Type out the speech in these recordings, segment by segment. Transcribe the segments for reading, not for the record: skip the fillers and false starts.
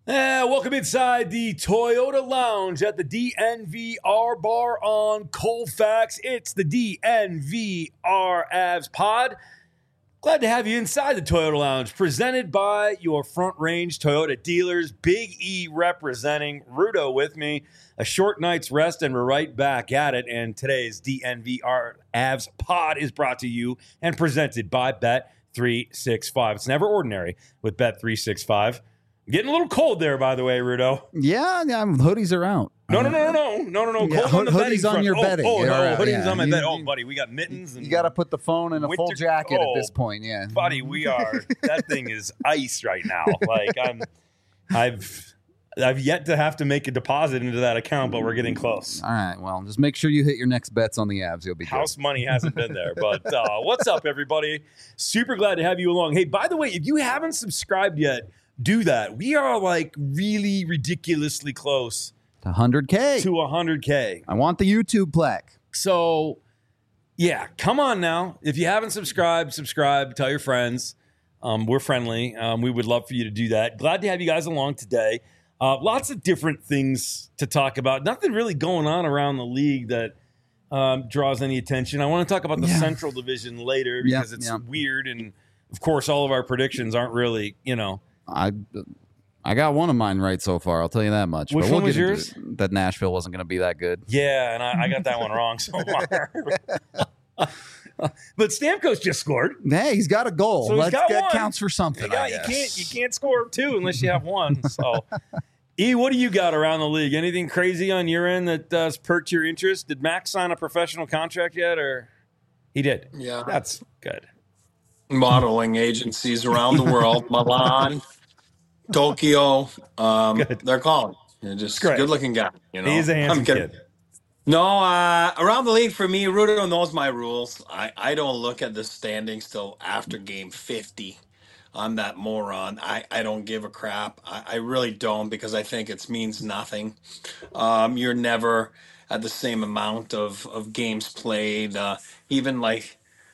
Welcome inside the Toyota Lounge at the DNVR Bar on Colfax. It's the DNVR Avs Pod. Glad to have you inside the Toyota Lounge, presented by your Front Range Toyota dealers. Big E representing, Rudo with me. A short night's rest, and we're right back at it. And today's DNVR Avs Pod is brought to you and presented by Bet365. It's never ordinary with Bet365. Getting a little cold there, by the way, Rudo. Yeah, hoodies are out. No. Yeah, Cold on the hoodies on front. your bedding. Hoodies Yeah. on my bed. Oh, buddy, we got mittens. And you got to put the phone in a full jacket at this point. Yeah, buddy, we are. That thing is ice right now. Like I've yet to have to make a deposit into that account, but we're getting close. All right, well, just make sure you hit your next bets on the Avs. You'll be House good. money hasn't been there, but what's up, everybody? Super glad to have you along. Hey, by the way, if you haven't subscribed yet, do that. We are like really ridiculously close to 100K. To 100K. I want the YouTube plaque. So, yeah, come on now. If you haven't subscribed, subscribe. Tell your friends. We're friendly. We would love for you to do that. Glad to have you guys along today. Lots of different things to talk about. Nothing really going on around the league that draws any attention. I want to talk about the Central Division later because it's weird. And, of course, all of our predictions aren't really, I got one of mine right so far. I'll tell you that much. Which one was yours? That Nashville wasn't going to be that good. Yeah, and I got that one wrong so far. But Stamkos just scored. Hey, he's got a goal. So that counts for something. You can't score two unless you have one. So, E, what do you got around the league? Anything crazy on your end that perked your interest? Did Max sign a professional contract yet, or he did? Yeah, that's good. Modeling agencies around the world, Milan, Tokyo, they're calling. You're just a good-looking guy. He's a handsome kid. No, around the league for me, Rudo knows my rules. I don't look at the standings till after game 50. I'm that moron. I don't give a crap. I really don't, because I think it means nothing. You're never at the same amount of games played, even like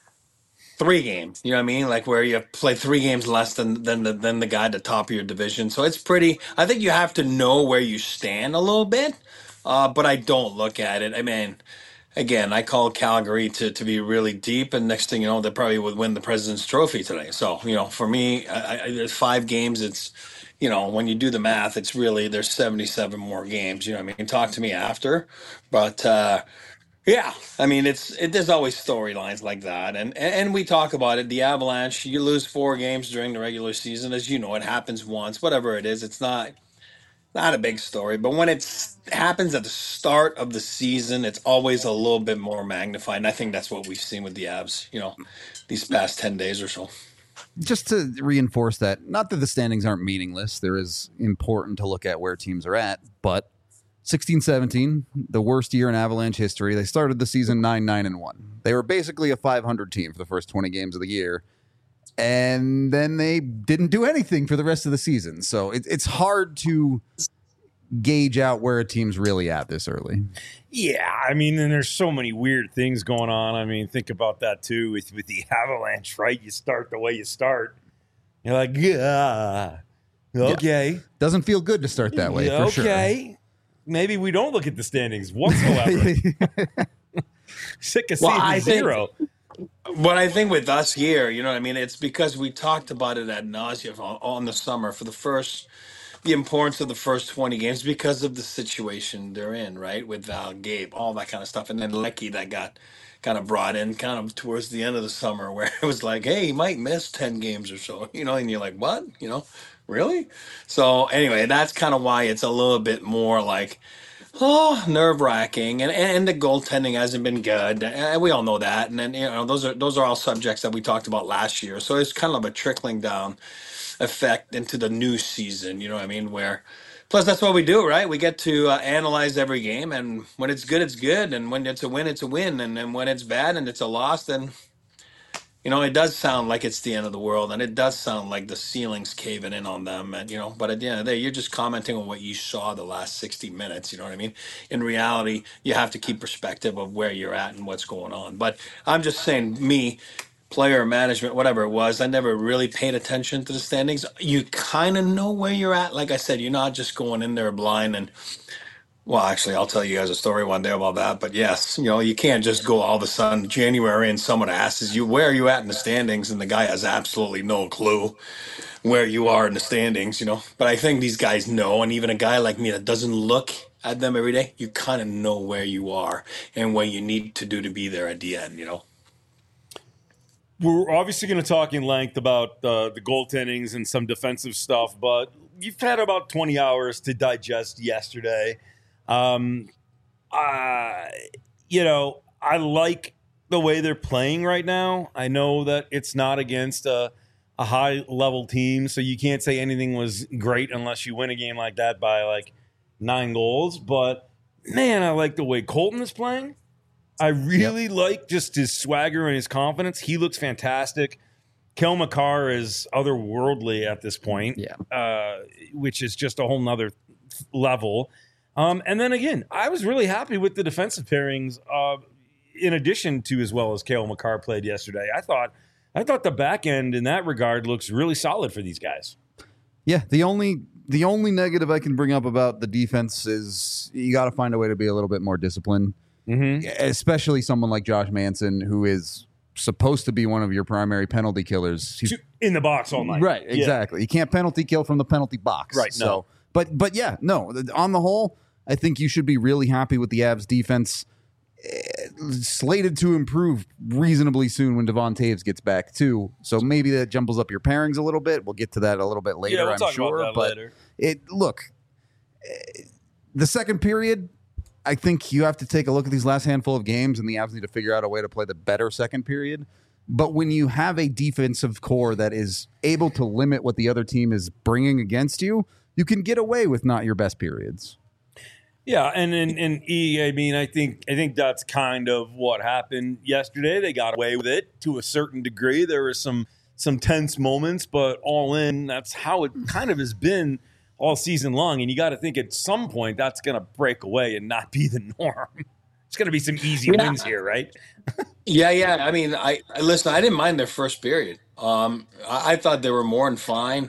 3 games, you know what I mean? Like where you play 3 games less than the guy at the top of your division. So it's pretty. I think you have to know where you stand a little bit, but I don't look at it. I mean, again, I call Calgary to be really deep, and next thing you know, they probably would win the President's Trophy today. So for me, there's 5 games. It's when you do the math, it's really there's 77 more games. You know what I mean? Talk to me after, but. Yeah, I mean, there's always storylines like that, and we talk about it. The Avalanche, you lose 4 games during the regular season, as you know, it happens once. Whatever it is, it's not a big story. But when it happens at the start of the season, it's always a little bit more magnified, and I think that's what we've seen with the Avs, these past 10 days or so. Just to reinforce that, not that the standings aren't meaningless. There is important to look at where teams are at, but 16-17, the worst year in Avalanche history. They started the season 9-9-1. They were basically a 500 team for the first 20 games of the year, and then they didn't do anything for the rest of the season. So it's hard to gauge out where a team's really at this early. Yeah, I mean, and there's so many weird things going on. I mean, think about that too with the Avalanche, right? You start the way you start. You're like, okay. Yeah. Doesn't feel good to start that way, for sure. Okay. Maybe we don't look at the standings whatsoever. Sick of seeing zero. What I think with us here, you know what I mean? It's because we talked about it ad nauseum on the summer for the importance of the first 20 games because of the situation they're in, right? With Val, Gabe, all that kind of stuff. And then Lecky that got kind of brought in kind of towards the end of the summer where it was like, hey, he might miss 10 games or so, and you're like, what? Really? So anyway, that's kind of why it's a little bit more like, nerve-wracking, and the goaltending hasn't been good, and we all know that. And then those are all subjects that we talked about last year. So it's kind of a trickling down effect into the new season. You know what I mean? Where plus that's what we do, right? We get to analyze every game, and when it's good, it's good, and when it's a win, it's a win, and then when it's bad and it's a loss, then it does sound like it's the end of the world, and it does sound like the ceiling's caving in on them. And but at the end of the day, you're just commenting on what you saw the last 60 minutes. You know what I mean? In reality, you have to keep perspective of where you're at and what's going on. But I'm just saying, player management, whatever it was. I never really paid attention to the standings. You kind of know where you're at. Like I said, you're not just going in there blind. And well, actually, I'll tell you guys a story one day about that. But yes, you can't just go all of a sudden January and someone asks you, where are you at in the standings? And the guy has absolutely no clue where you are in the standings. But I think these guys know. And even a guy like me that doesn't look at them every day, you kind of know where you are and what you need to do to be there at the end. We're obviously going to talk in length about the goaltendings and some defensive stuff, but you've had about 20 hours to digest yesterday. I like the way they're playing right now. I know that it's not against a high-level team, so you can't say anything was great unless you win a game like that by, 9 goals. But, man, I like the way Colton is playing. I really like just his swagger and his confidence. He looks fantastic. Kel McCarr is otherworldly at this point, which is just a whole nother level. And then again, I was really happy with the defensive pairings. In addition to as well as Kel McCarr played yesterday, I thought the back end in that regard looks really solid for these guys. Yeah, the only negative I can bring up about the defense is you got to find a way to be a little bit more disciplined. Mm-hmm. Especially someone like Josh Manson, who is supposed to be one of your primary penalty killers. He's in the box all night. Right, exactly. You can't penalty kill from the penalty box. Right, no. But yeah, no. On the whole, I think you should be really happy with the Avs defense. Slated to improve reasonably soon when Devon Taves gets back too. So maybe that jumbles up your pairings a little bit. We'll get to that a little bit later, we'll talk sure. About that later. The second period, I think you have to take a look at these last handful of games, and the Avs need to figure out a way to play the better second period. But when you have a defensive core that is able to limit what the other team is bringing against you, you can get away with not your best periods. Yeah, and I mean, I think that's kind of what happened yesterday. They got away with it to a certain degree. There were some tense moments, but all in, that's how it kind of has been all season long. And you got to think at some point that's going to break away and not be the norm. It's going to be some easy wins here, right? Yeah. I mean, I listen. I didn't mind their first period. I thought they were more than fine.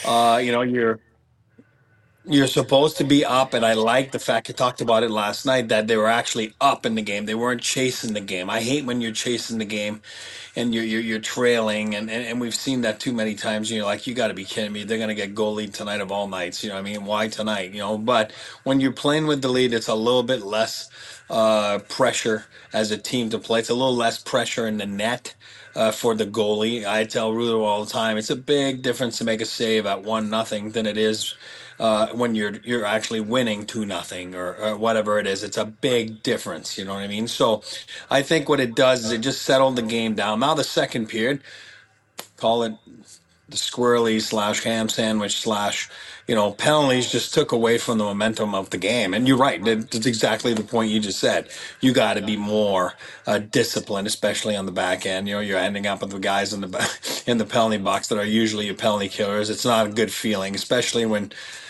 You're supposed to be up, and I like the fact you talked about it last night that they were actually up in the game. They weren't chasing the game. I hate when you're chasing the game and you're trailing, and we've seen that too many times. You're like, you got to be kidding me. They're going to get goal lead tonight of all nights. You know what I mean? Why tonight? But when you're playing with the lead, it's a little bit less pressure as a team to play. It's a little less pressure in the net. For the goalie, I tell Rudo all the time, it's a big difference to make a save at 1-0 than it is when you're actually winning 2-0 or whatever it is. It's a big difference. You know what I mean? So I think what it does is it just settled the game down. Now the second period, call it the squirrely / ham sandwich / penalties just took away from the momentum of the game. And you're right. That's exactly the point you just said. You got to be more disciplined, especially on the back end. You're ending up with the guys in the penalty box that are usually your penalty killers. It's not a good feeling, especially when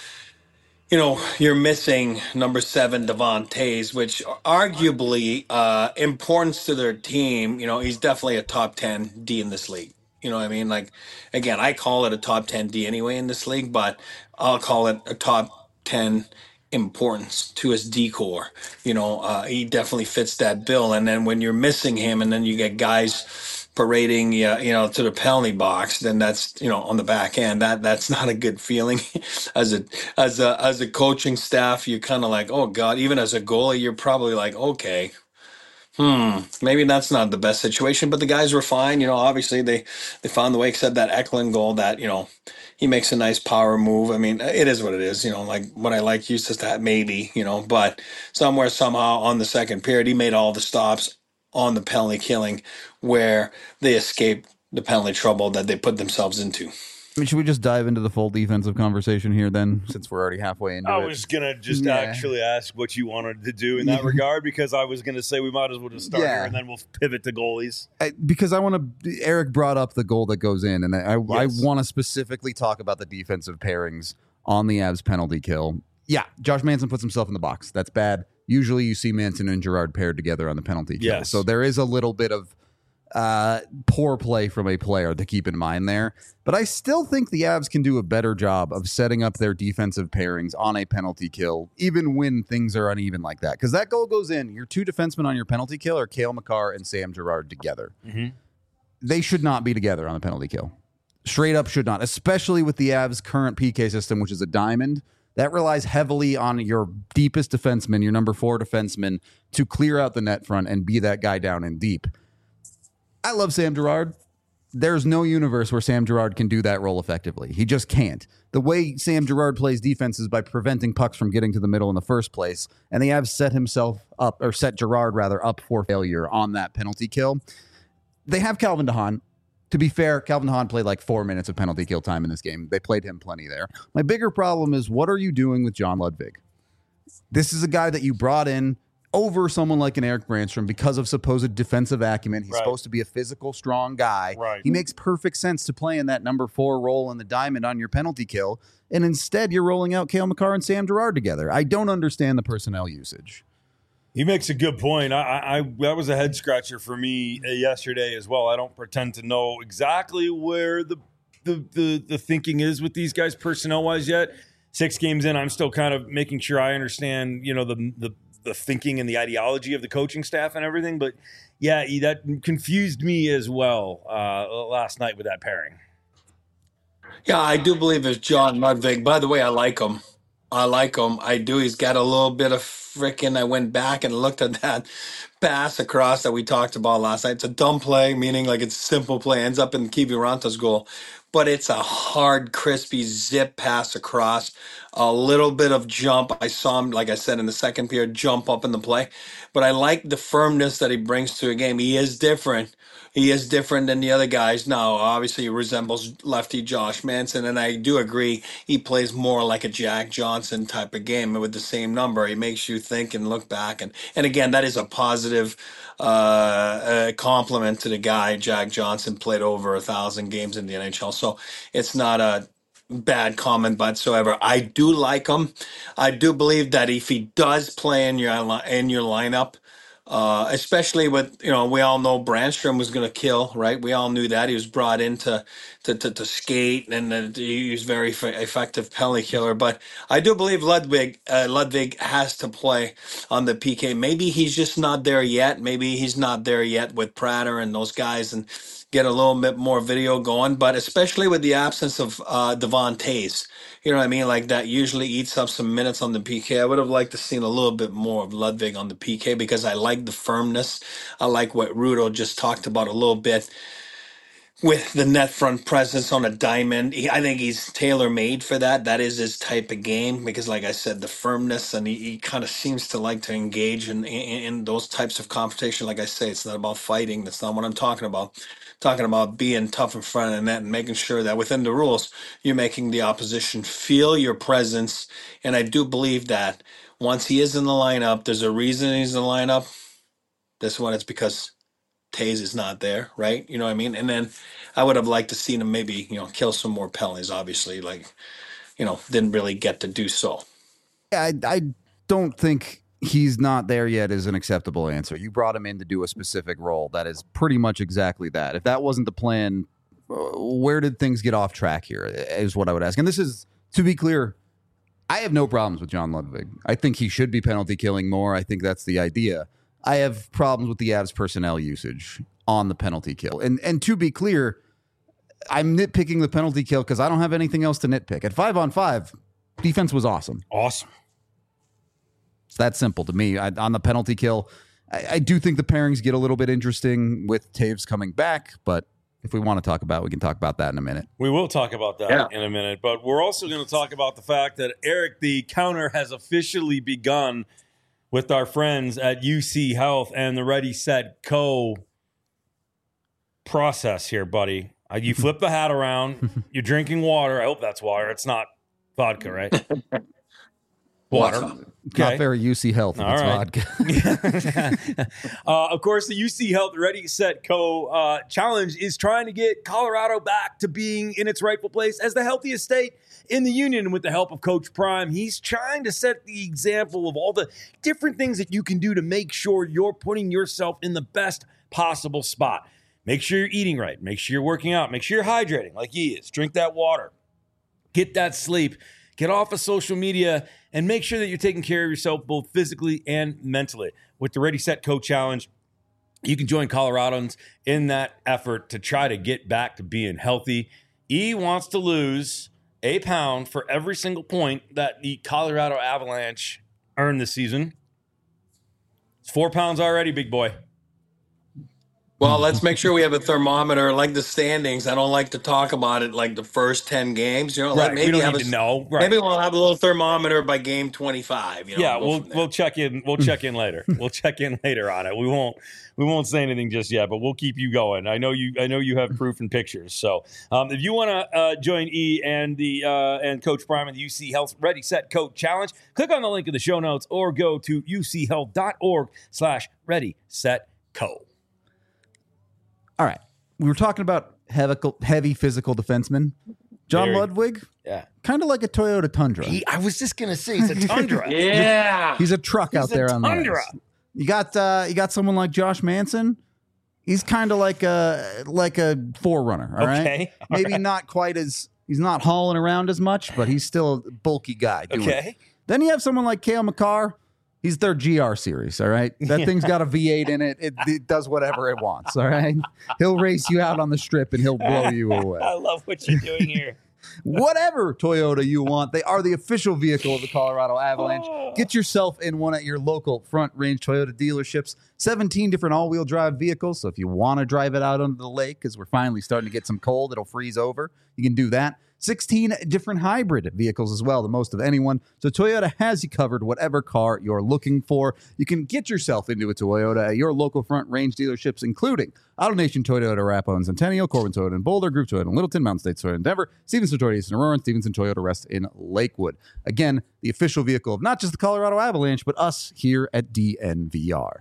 you're missing number 7, Devon Taves, which arguably importance to their team. He's definitely a top 10 D in this league. You know what I mean? Like, again, I call it a top 10 D anyway in this league, but I'll call it a top 10 importance to his D core. He definitely fits that bill. And then when you're missing him and then you get guys parading, to the penalty box, then that's, on the back end, that's not a good feeling. As a coaching staff, you're kind of like, oh God, even as a goalie, you're probably like, okay, maybe that's not the best situation, but the guys were fine. Obviously they found the way, except that Eklund goal that, he makes a nice power move. I mean, it is what it is, like what I like used to that maybe, but somehow on the second period, he made all the stops on the penalty killing where they escaped the penalty trouble that they put themselves into. I mean, should we just dive into the full defensive conversation here then, since we're already halfway into it? I was going to just actually ask what you wanted to do in that regard, because I was going to say we might as well just start here and then we'll pivot to goalies. Because I want to, Eric brought up the goal that goes in, and I want to specifically talk about the defensive pairings on the Avs penalty kill. Yeah, Josh Manson puts himself in the box. That's bad. Usually you see Manson and Girard paired together on the penalty kill. Yes. So there is a little bit of Poor play from a player to keep in mind there. But I still think the Avs can do a better job of setting up their defensive pairings on a penalty kill, even when things are uneven like that. Because that goal goes in, your two defensemen on your penalty kill are Cale Makar and Sam Girard together. Mm-hmm. They should not be together on the penalty kill. Straight up should not, especially with the Avs' current PK system, which is a diamond. That relies heavily on your deepest defenseman, your number 4 defenseman, to clear out the net front and be that guy down and deep. I love Sam Girard. There's no universe where Sam Girard can do that role effectively. He just can't. The way Sam Girard plays defense is by preventing pucks from getting to the middle in the first place, and the Avs set Girard up for failure on that penalty kill. They have Calvin DeHaan. To be fair, Calvin DeHaan played like 4 minutes of penalty kill time in this game. They played him plenty there. My bigger problem is, what are you doing with John Ludwig? This is a guy that you brought in over someone like an Eric Brandstrom because of supposed defensive acumen. He's supposed to be a physical, strong guy. Right. He makes perfect sense to play in that number 4 role in the diamond on your penalty kill. And instead, you're rolling out Cale Makar and Sam Girard together. I don't understand the personnel usage. He makes a good point. That was a head scratcher for me yesterday as well. I don't pretend to know exactly where the thinking is with these guys personnel wise yet. 6 games in, I'm still kind of making sure I understand, the thinking and the ideology of the coaching staff and everything. But yeah, that confused me as well last night with that pairing. Yeah, I do believe it's John Ludwig. By the way, I like him. I do. He's got a little bit of frickin'. I went back and looked at that pass across that we talked about last night. It's a dumb play, meaning like it's a simple play, ends up in Kiviranta's goal. But it's a hard, crispy zip pass across, a little bit of jump. I saw him, like I said, in the second period, jump up in the play. But I like the firmness that he brings to a game. He is different. He is different than the other guys. Now, obviously, he resembles lefty Josh Manson, and I do agree he plays more like a Jack Johnson type of game with the same number. He makes you think and look back. And again, that is a positive compliment to the guy. Jack Johnson played over 1,000 games in the NHL, so it's not a bad comment whatsoever. I do like him. I do believe that if he does play in your lineup, especially with, we all know Brandstrom was going to kill, right? We all knew that. He was brought in to skate, and he was very effective penalty killer. But I do believe Ludwig has to play on the PK. Maybe he's just not there yet. Maybe he's not there yet with Prater and those guys, and get a little bit more video going. But especially with the absence of Devon Toews, you know what I mean? Like, that usually eats up some minutes on the PK. I would have liked to seen a little bit more of Ludwig on the PK because I like the firmness. I like what Rudo just talked about a little bit with the net front presence on a diamond. I think he's tailor-made for that. That is his type of game because, like I said, the firmness, and he kind of seems to like to engage in those types of competition. Like I say, it's not about fighting. That's not what I'm talking about. Talking about being tough in front of the net and making sure that within the rules, you're making the opposition feel your presence. And I do believe that once he is in the lineup, there's a reason he's in the lineup. This one, it's because Toews is not there, right? You know what I mean? And then I would have liked to see him maybe, kill some more penalties, obviously, didn't really get to do so. Yeah, I don't think he's not there yet is an acceptable answer. You brought him in to do a specific role. That is pretty much exactly that. If that wasn't the plan, where did things get off track here is what I would ask. And this is, to be clear, I have no problems with John Ludwig. I think he should be penalty killing more. I think that's the idea. I have problems with the Avs personnel usage on the penalty kill. And to be clear, I'm nitpicking the penalty kill because I don't have anything else to nitpick. At 5-on-5, defense was awesome. Awesome. It's that simple to me. On the penalty kill, I do think the pairings get a little bit interesting with Toews coming back, but if we want to talk about it, we can talk about that in a minute. We will talk about that in a minute, but we're also going to talk about the fact that, Eric, the counter has officially begun with our friends at UC Health and the Ready, Set, Go process here, buddy. You flip the hat around. You're drinking water. I hope that's water. It's not vodka, right? Water. Okay. Not very UC Health. All right. Vodka. Of course, the UC Health Ready, Set, Go challenge is trying to get Colorado back to being in its rightful place as the healthiest state in the union. With the help of Coach Prime, he's trying to set the example of all the different things that you can do to make sure you're putting yourself in the best possible spot. Make sure you're eating right. Make sure you're working out. Make sure you're hydrating like he is. Drink that water. Get that sleep. Get off of social media and make sure that you're taking care of yourself both physically and mentally. With the Ready, Set, Go challenge, you can join Coloradans in that effort to try to get back to being healthy. E wants to lose a pound for every single point that the Colorado Avalanche earned this season. It's 4 pounds already, big boy. Well, let's make sure we have a thermometer like the standings. I don't like to talk about it like the first 10 games. You know, Right. like maybe We don't have need to know. Right. Maybe we'll have a little thermometer by game 25. You know, Yeah, we'll we'll check in. We'll check in later. We'll check in later on it. We won't say anything just yet, but we'll keep you going. I know you have proof and pictures. So if you want to join E and and Coach Prime in the UC Health Ready Set Coach Challenge, click on the link in the show notes or go to uchealth.org/Ready Set Co. All right. We were talking about heavy physical defensemen. John Very. Ludwig, Yeah, kind of like a Toyota Tundra. I was just gonna say it's a Tundra. Yeah. He's a truck out He's a there on the Tundra. ice. You got someone like Josh Manson. He's kind of like a forerunner. All right, Okay. All maybe not quite as he's not hauling around as much, but he's still a bulky guy. doing it. Okay. Then you have someone like Cale Makar. He's their GR series, all right? That thing's got a V8 in it. It does whatever it wants, all right? He'll race you out on the strip and he'll blow you away. I love what you're doing here. Whatever Toyota you want, they are the official vehicle of the Colorado Avalanche. Get yourself in one at your local Front Range Toyota dealerships. 17 different all-wheel drive vehicles, so if you want to drive it out onto the lake, because we're finally starting to get some cold, it'll freeze over, you can do that. 16 different hybrid vehicles as well, the most of anyone. So Toyota has you covered, whatever car you're looking for. You can get yourself into a Toyota at your local Front Range dealerships, including AutoNation Toyota, Arapahoe and Centennial, Corbin Toyota in Boulder, Group Toyota in Littleton, Mountain State Toyota in Denver, Stevenson Toyota East in Aurora, and Stevenson Toyota Rest in Lakewood. Again, the official vehicle of not just the Colorado Avalanche, but us here at DNVR.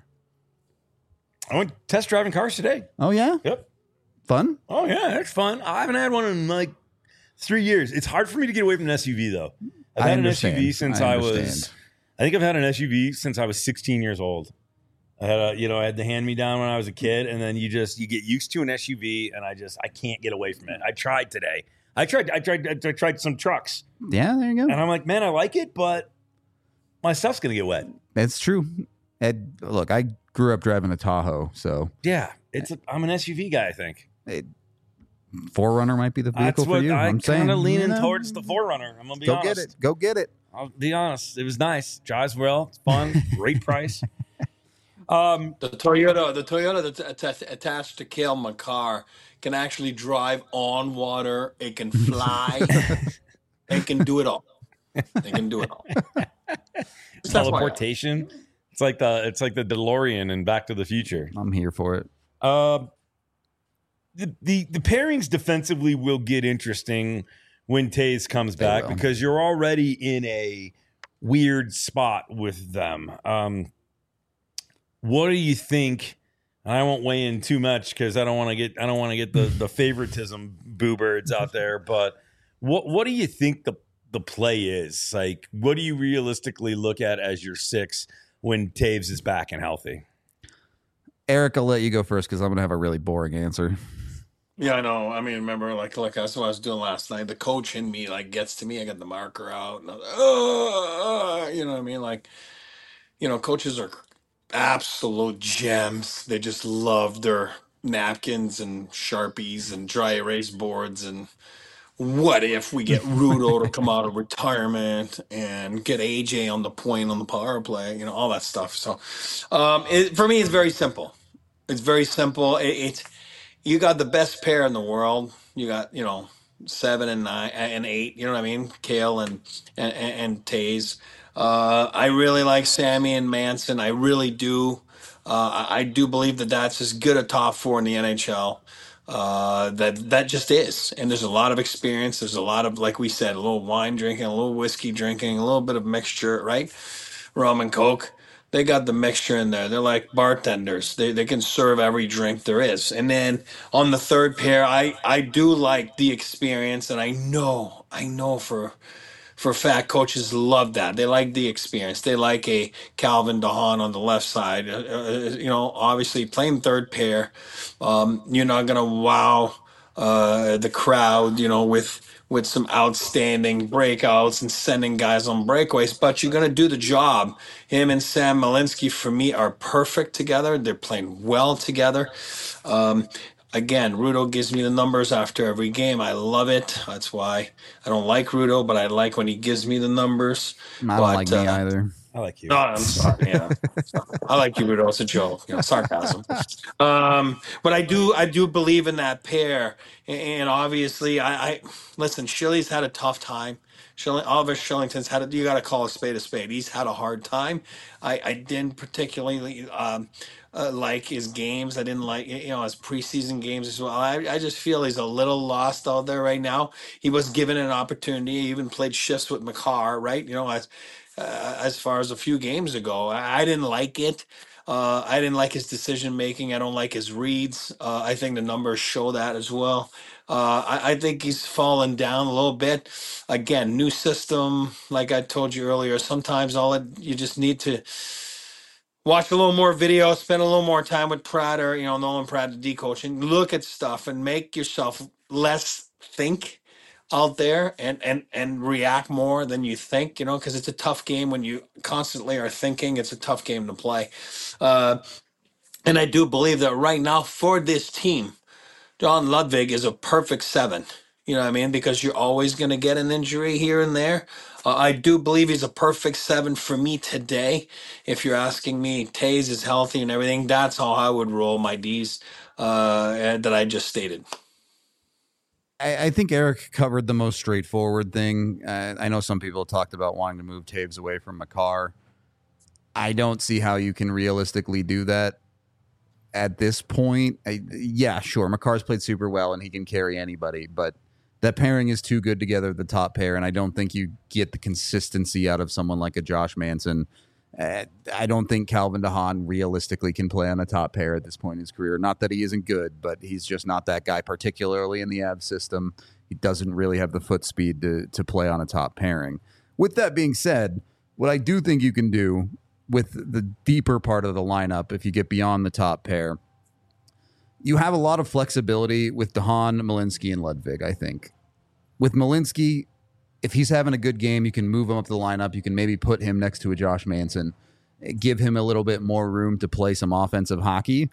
I went test driving cars today. Oh, yeah? Yep. Fun? Oh yeah, it's fun. I haven't had one in like 3 years. It's hard for me to get away from an SUV though. I've I had understand. an SUV since I I was. understand. I think I've had an SUV since I was 16 years old. I had I had the hand me down when I was a kid, and then you get used to an SUV, and I can't get away from it. I tried today. I tried some trucks, Yeah, there you go. and I'm like, man, I like it, but my stuff's gonna get wet. That's true. Ed, look, I grew up driving a Tahoe, so Yeah, I'm an SUV guy. I think. Forerunner might be the vehicle That's for what you. I'm saying, kind of leaning you know, towards the Forerunner. I'm gonna be Go honest. get it. Go get it. I'll be honest. It was nice. Drives well. It's fun. Great price. The Toyota that's attached to Cale Makar can actually drive on water. It can fly. It can do it all. It can do it all. Just FYI. Teleportation. It's like the DeLorean in Back to the Future. I'm here for it. The pairings defensively will get interesting when Taves comes They back will. because you're already in a weird spot with them. What do you think? I won't weigh in too much because I don't want to get the favoritism boo birds out there. But what do you think the play is? Like, what do you realistically look at as your six when Taves is back and healthy? Eric, I'll let you go first because I'm going to have a really boring answer. Yeah, I know. I mean, remember, like that's what I was doing last night. The coach in me gets to me. I got the marker out, and I was like, you know what I mean? Like, coaches are absolute gems. They just love their napkins and Sharpies and dry erase boards. And what if we get Rudo to come out of retirement and get AJ on the point on the power play? All that stuff. So, for me, it's very simple. It's very simple. It's you got the best pair in the world. You got 7 and 9 and 8. You know what I mean? Kale and Taze. I really like Sammy and Manson. I really do. I do believe that that's as good a top four in the NHL. That just is. And there's a lot of experience. There's a lot of, like we said, a little wine drinking, a little whiskey drinking, a little bit of mixture, right? Rum and Coke. They got the mixture in there. They're like bartenders. They can serve every drink there is. And then on the third pair, I do like the experience, and I know for a fact coaches love that. They like the experience. They like a Calvin DeHaan on the left side. Obviously playing third pair, you're not gonna wow the crowd, with some outstanding breakouts and sending guys on breakaways, but you're going to do the job. Him and Sam Malinsky, for me, are perfect together. They're playing well together. Um, Again, Rudo gives me the numbers after every game. I love it. That's why I don't like Rudo, but I like when he gives me the numbers. I don't like me either. I like you. No, I'm sorry. Yeah, I like you, Rudo. It's a joke. Sarcasm. But I do believe in that pair, and obviously, I listen. Shilly's had a tough time. Oliver Shillington's had you got to call a spade a spade. He's had a hard time. I didn't particularly like his games. I didn't like his preseason games as well. I just feel he's a little lost out there right now. He was given an opportunity. He even played shifts with McCarr, right? As far as a few games ago, I didn't like it. I didn't like his decision making. I don't like his reads. I think the numbers show that as well. I think he's fallen down a little bit. Again, new system, like I told you earlier. Sometimes you just need to watch a little more video, spend a little more time with Pratt or Nolan Pratt, the D coach, and look at stuff and make yourself less think out there and react more than you think, because it's a tough game when you constantly are thinking. It's a tough game to play. And I do believe that right now for this team, John Ludwig is a perfect 7. You know what I mean? Because you're always going to get an injury here and there. I do believe he's a perfect 7 for me today. If you're asking me, Taze is healthy and everything, that's how I would roll my Ds that I just stated. I think Eric covered the most straightforward thing. I know some people talked about wanting to move Taves away from McCarr. I don't see how you can realistically do that at this point. Yeah, sure, McCarr's played super well and he can carry anybody, but that pairing is too good together, the top pair, and I don't think you get the consistency out of someone like a Josh Manson. I don't think Calvin DeHaan realistically can play on a top pair at this point in his career. Not that he isn't good, but he's just not that guy, particularly in the Avs system. He doesn't really have the foot speed to play on a top pairing. With that being said, what I do think you can do with the deeper part of the lineup, if you get beyond the top pair, you have a lot of flexibility with DeHaan, Malinsky, and Ludwig, I think. With Malinsky, if he's having a good game, you can move him up the lineup. You can maybe put him next to a Josh Manson, give him a little bit more room to play some offensive hockey.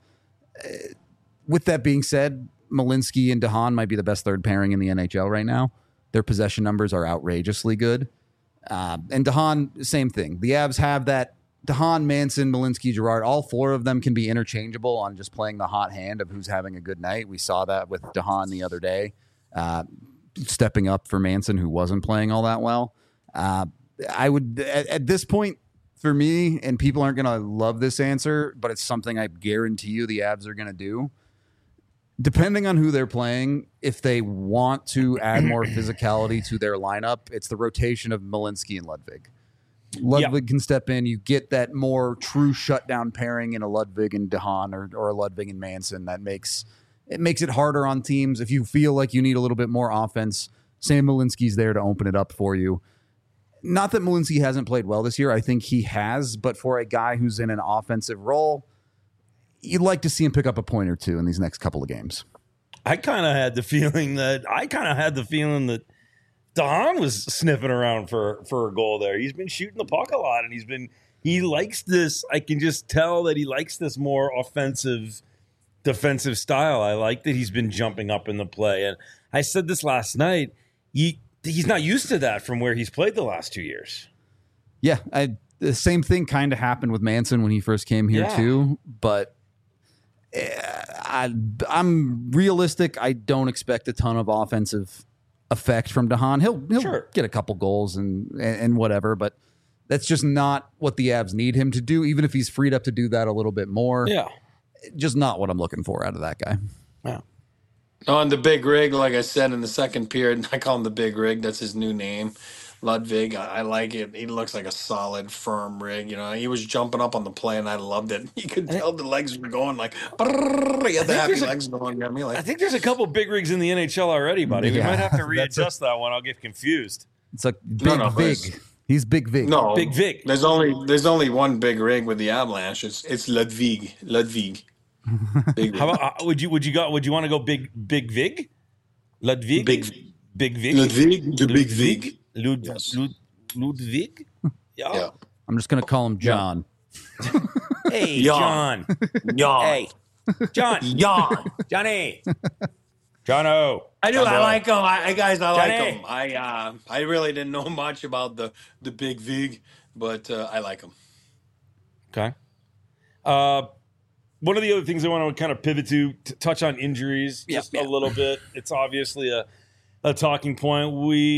With that being said, Malinsky and DeHaan might be the best third pairing in the NHL right now. Their possession numbers are outrageously good. And DeHaan, same thing. The Avs have that DeHaan, Manson, Malinsky, Girard. All 4 of them can be interchangeable on just playing the hot hand of who's having a good night. We saw that with DeHaan the other day. Stepping up for Manson, who wasn't playing all that well. I would, at this point, for me, and people aren't going to love this answer, but it's something I guarantee you the Avs are going to do. Depending on who they're playing, if they want to add more physicality to their lineup, it's the rotation of Malinsky and Ludwig. Ludwig can step in. You get that more true shutdown pairing in a Ludwig and DeHaan or a Ludwig and Manson that makes it harder on teams. If you feel like you need a little bit more offense, Sam Malinsky's there to open it up for you. Not that Malinsky hasn't played well this year. I think he has, but for a guy who's in an offensive role, you'd like to see him pick up a point or two in these next couple of games. I kind of had the feeling that DeHaan was sniffing around for a goal there. He's been shooting the puck a lot, and he likes this. I can just tell that he likes this more offensive defensive style. I like that he's been jumping up in the play. And I said this last night, he's not used to that from where he's played the last 2 years. Yeah, the same thing kind of happened with Manson when he first came here too. But I'm realistic. I don't expect a ton of offensive effect from DeHaan. He'll sure get a couple goals and whatever, but that's just not what the Avs need him to do, even if he's freed up to do that a little bit more. Yeah. Just not what I'm looking for out of that guy. Yeah. On the big rig, like I said in the second period, I call him the big rig. That's his new name. Ludwig, I like it. He looks like a solid, firm rig. He was jumping up on the play, and I loved it. You could tell the legs were going like, he had the happy legs going. I think there's a couple big rigs in the NHL already, buddy. We might have to readjust that one. I'll get confused. It's like Big no, Vig. He's Big Vig. No, Big Vic. There's only one big rig with the Avalanche. It's Ludwig. Big How rig. about would you want to go big Vig? Ludwig? Big Big Vig? Ludwig, the big Vig. Yes. Ludwig? Yeah. I'm just going to call him John. Hey, Yawn. John. Yawn. Hey, John. Yawn. Johnny. Jono. I do. I like him. I like Johnny. him. I really didn't know much about the big Vig, but I like him. Okay. One of the other things I want to kind of pivot to touch on injuries just a little bit. It's obviously a talking point.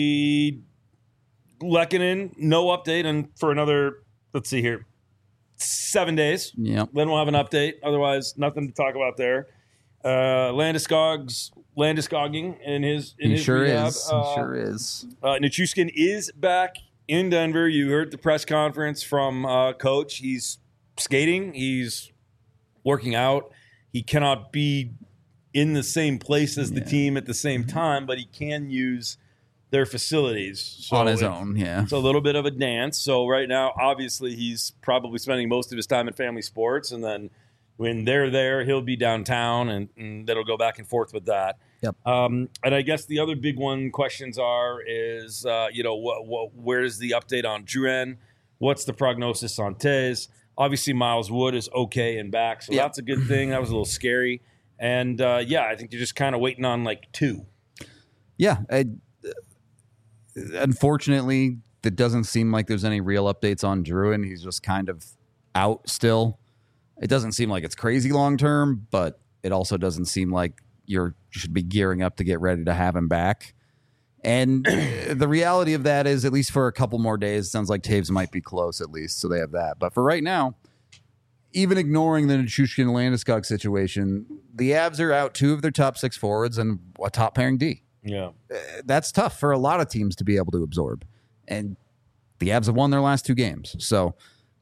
Lehkonen, no update, and for another, let's see here, 7 days. Yep. Then we'll have an update. Otherwise, nothing to talk about there. Landeskoging in his Sure rehab. is. He sure is. Nichushkin is back in Denver. You heard the press conference from Coach. He's skating. He's working out. He cannot be in the same place as the team at the same time, but he can use their facilities. So on his own, yeah. It's a little bit of a dance. So right now, obviously, he's probably spending most of his time at family sports, and then when they're there, he'll be downtown, and that'll go back and forth with that. Yep. And I guess the other big questions is where's the update on Drouin? What's the prognosis on Taze? Obviously, Miles Wood is okay and back, so that's a good thing. That was a little scary. And, I think you're just kind of waiting on, two. Yeah. Unfortunately, it doesn't seem like there's any real updates on Drouin. He's just kind of out still. It doesn't seem like it's crazy long term, but it also doesn't seem like you should be gearing up to get ready to have him back. And the reality of that is, at least for a couple more days, it sounds like Taves might be close at least, so they have that. But for right now, even ignoring the Nichushkin Landeskog situation, the Avs are out 2 of their top 6 forwards and a top pairing D. Yeah. That's tough for a lot of teams to be able to absorb. And the Avs have won their last 2 games. So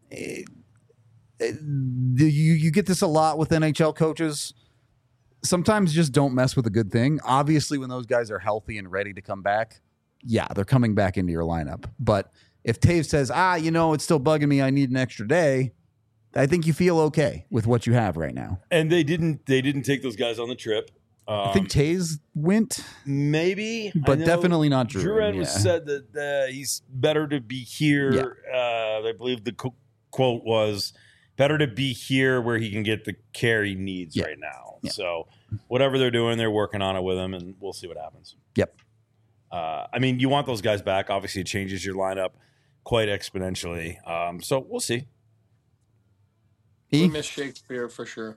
you get this a lot with NHL coaches. Sometimes just don't mess with a good thing. Obviously, when those guys are healthy and ready to come back, they're coming back into your lineup. But if Taves says, it's still bugging me, I need an extra day, I think you feel okay with what you have right now. And they didn't take those guys on the trip. I think Taze went. Maybe. But definitely not Drouin. Drouin was said that he's better to be here. Yeah. I believe the quote was, better to be here where he can get the care he needs right now. Yeah. So whatever they're doing, they're working on it with him, and we'll see what happens. Yep. You want those guys back. Obviously, it changes your lineup quite exponentially. So we'll see. We miss Shakespeare for sure.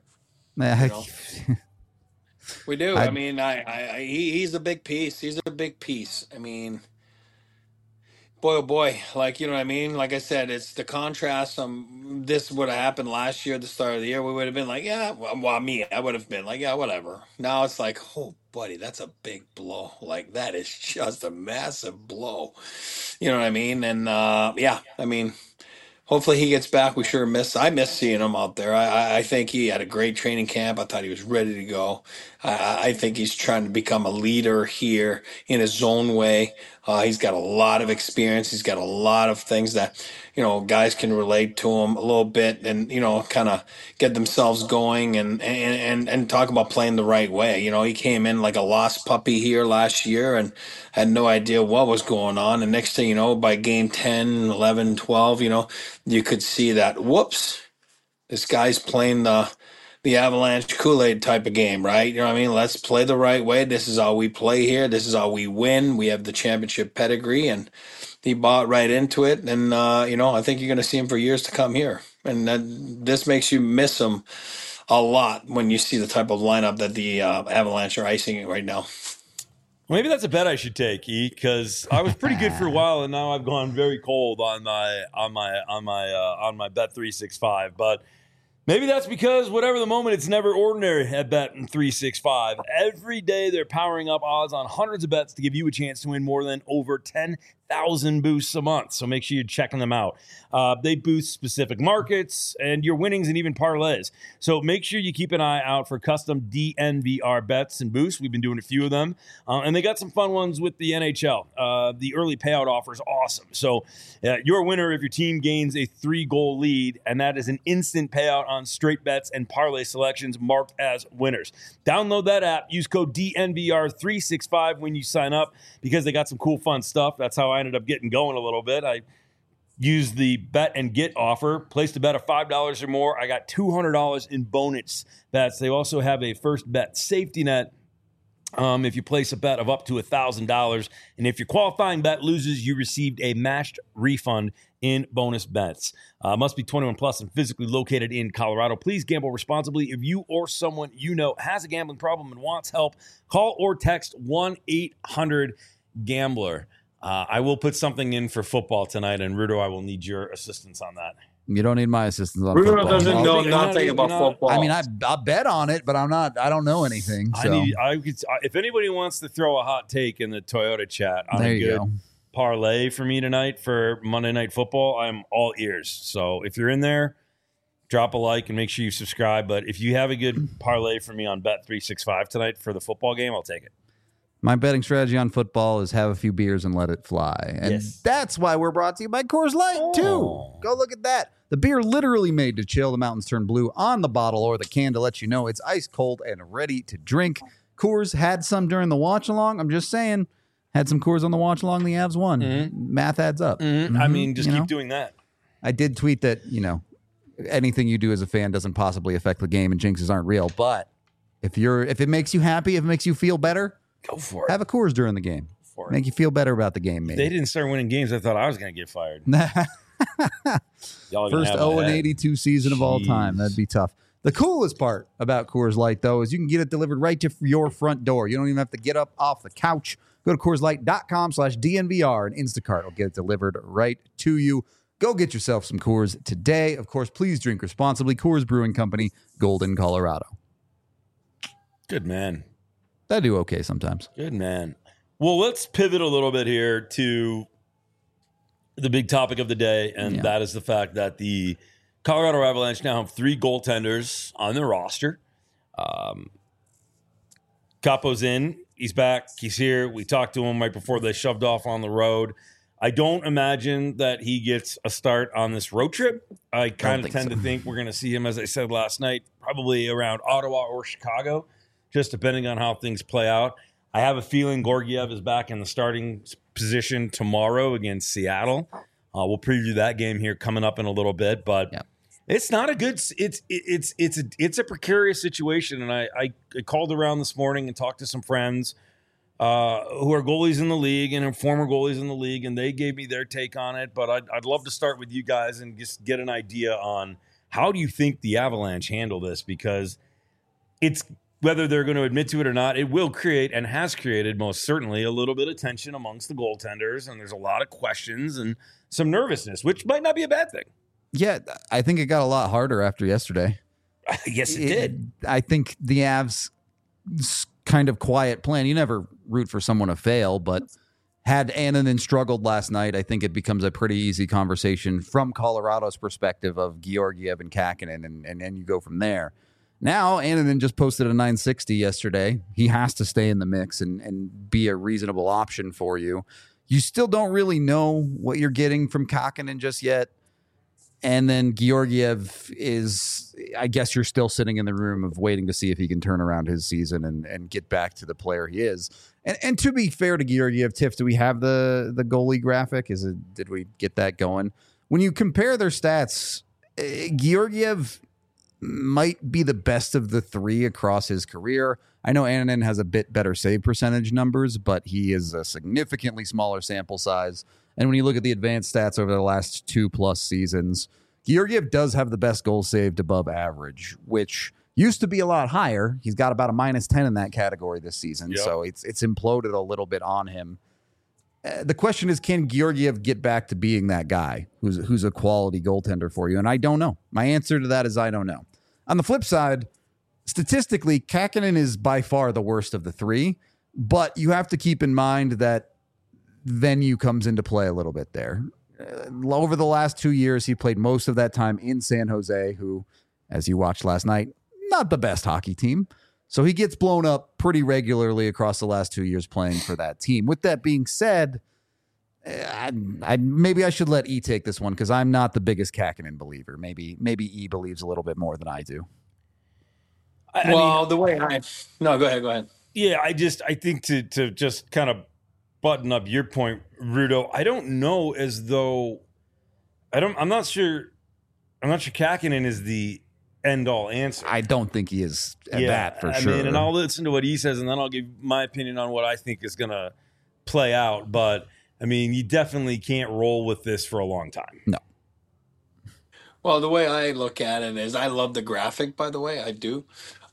We do. He's a big piece. He's a big piece. Boy, oh boy. Like I said, it's the contrast. This would have happened last year at the start of the year. We would have been like, I would have been like, whatever. Now it's like, oh, buddy, that's a big blow. Like, that is just a massive blow. You know what I mean? And, hopefully he gets back. I miss seeing him out there. I think he had a great training camp. I thought he was ready to go. I think he's trying to become a leader here in his own way. He's got a lot of experience. He's got a lot of things that, guys can relate to him a little bit and, kind of get themselves going and talk about playing the right way. He came in like a lost puppy here last year and had no idea what was going on. And next thing you know, by game 10, 11, 12, you could see that, whoops, this guy's playing the Avalanche Kool-Aid type of game, right? You know what I mean? Let's play the right way. This is how we play here. This is how we win. We have the championship pedigree, and he bought right into it. And, I think you're going to see him for years to come here. And this makes you miss him a lot when you see the type of lineup that the Avalanche are icing right now. Maybe that's a bet I should take, because I was pretty good for a while, and now I've gone very cold on my Bet365. But maybe that's because whatever the moment, it's never ordinary at Bet365. Every day they're powering up odds on hundreds of bets to give you a chance to win more than over $10 1,000 boosts a month. So make sure you're checking them out. They boost specific markets and your winnings and even parlays. So make sure you keep an eye out for custom DNVR bets and boosts. We've been doing a few of them. And they got some fun ones with the NHL. The early payout offer is awesome. So you're a winner if your team gains a 3-goal lead, and that is an instant payout on straight bets and parlay selections marked as winners. Download that app. Use code DNVR365 when you sign up because they got some cool, fun stuff. That's how I ended up getting going a little bit. I used the bet and get offer, placed a bet of $5 or more. I got $200 in bonus bets. They also have a first bet safety net. If you place a bet of up to $1,000, and if your qualifying bet loses, you received a matched refund in bonus bets. Must be 21 plus and physically located in Colorado. Please gamble responsibly. If you or someone you know has a gambling problem and wants help, call or text 1-800-GAMBLER. I will put something in for football tonight, and Rudo, I will need your assistance on that. You don't need my assistance on Rudo football. doesn't know nothing about football. I mean, I'll bet on it, but I don't know anything. So. If anybody wants to throw a hot take in the Toyota chat on There a you good go. parlay for me tonight for Monday Night Football, I'm all ears. So if you're in there, drop a like and make sure you subscribe. But if you have a good parlay for me on Bet365 tonight for the football game, I'll take it. My betting strategy on football is have a few beers and let it fly. And that's why we're brought to you by Coors Light, too. Go look at that. The beer literally made to chill. The mountains turn blue on the bottle or the can to let you know it's ice cold and ready to drink. Coors had some during the watch along. I'm just saying, had some Coors on the watch along. The Avs won. Mm-hmm. Math adds up. Mm-hmm. I mean, just keep doing that. I did tweet that, anything you do as a fan doesn't possibly affect the game and jinxes aren't real. But if it makes you happy, if it makes you feel better, go for it. Have a Coors during the game. Make you feel better about the game, maybe. If they didn't start winning games, I thought I was going to get fired. First 0-82 season of all time. That'd be tough. The coolest part about Coors Light, though, is you can get it delivered right to your front door. You don't even have to get up off the couch. Go to CoorsLight.com/DNVR and Instacart will get it delivered right to you. Go get yourself some Coors today. Of course, please drink responsibly. Coors Brewing Company, Golden, Colorado. Good man. I do okay sometimes. Good man. Well, let's pivot a little bit here to the big topic of the day, and that is the fact that the Colorado Avalanche now have 3 goaltenders on their roster. Capo's in. He's back. He's here. We talked to him right before they shoved off on the road. I don't imagine that he gets a start on this road trip. I kind of tend to think we're going to see him, as I said last night, probably around Ottawa or Chicago, just depending on how things play out. I have a feeling Georgiev is back in the starting position tomorrow against Seattle. We'll preview that game here coming up in a little bit, but it's not a good. It's a precarious situation, and I called around this morning and talked to some friends who are goalies in the league and are former goalies in the league, and they gave me their take on it. But I'd love to start with you guys and just get an idea on how do you think the Avalanche handle this, because it's. Whether they're going to admit to it or not, it will create and has created most certainly a little bit of tension amongst the goaltenders. And there's a lot of questions and some nervousness, which might not be a bad thing. Yeah, I think it got a lot harder after yesterday. Yes, it did. I think the Avs' kind of quiet plan, you never root for someone to fail, but had Annunen struggled last night, I think it becomes a pretty easy conversation from Colorado's perspective of Georgiev and Kakkonen, and you go from there. Now, Annunen just posted a 960 yesterday. He has to stay in the mix and be a reasonable option for you. You still don't really know what you're getting from Kakkonen just yet. And then Georgiev is, I guess you're still sitting in the room of waiting to see if he can turn around his season and get back to the player he is. And to be fair to Georgiev, Tiff, do we have the goalie graphic? Did we get that going? When you compare their stats, Georgiev might be the best of the 3 across his career. I know Annunen has a bit better save percentage numbers, but he is a significantly smaller sample size. And when you look at the advanced stats over the last 2+ seasons, Georgiev does have the best goals saved above average, which used to be a lot higher. He's got about a -10 in that category this season. So it's imploded a little bit on him. The question is, can Georgiev get back to being that guy who's a quality goaltender for you? And I don't know. My answer to that is I don't know. On the flip side, statistically, Kakkonen is by far the worst of the 3, but you have to keep in mind that venue comes into play a little bit there. Over the last 2 years, he played most of that time in San Jose, who, as you watched last night, not the best hockey team. So he gets blown up pretty regularly across the last 2 years playing for that team. With that being said, maybe I should let E take this one because I'm not the biggest Kakkonen believer. Maybe E believes a little bit more than I do. No, go ahead. Yeah, I think to just kind of button up your point, Rudo, I don't know as though I'm not sure Kakkonen is the end all answer. I don't think he is that for sure. I mean, and I'll listen to what he says and then I'll give my opinion on what I think is going to play out. But I mean, you definitely can't roll with this for a long time. No. Well, the way I look at it is I love the graphic, by the way, I do.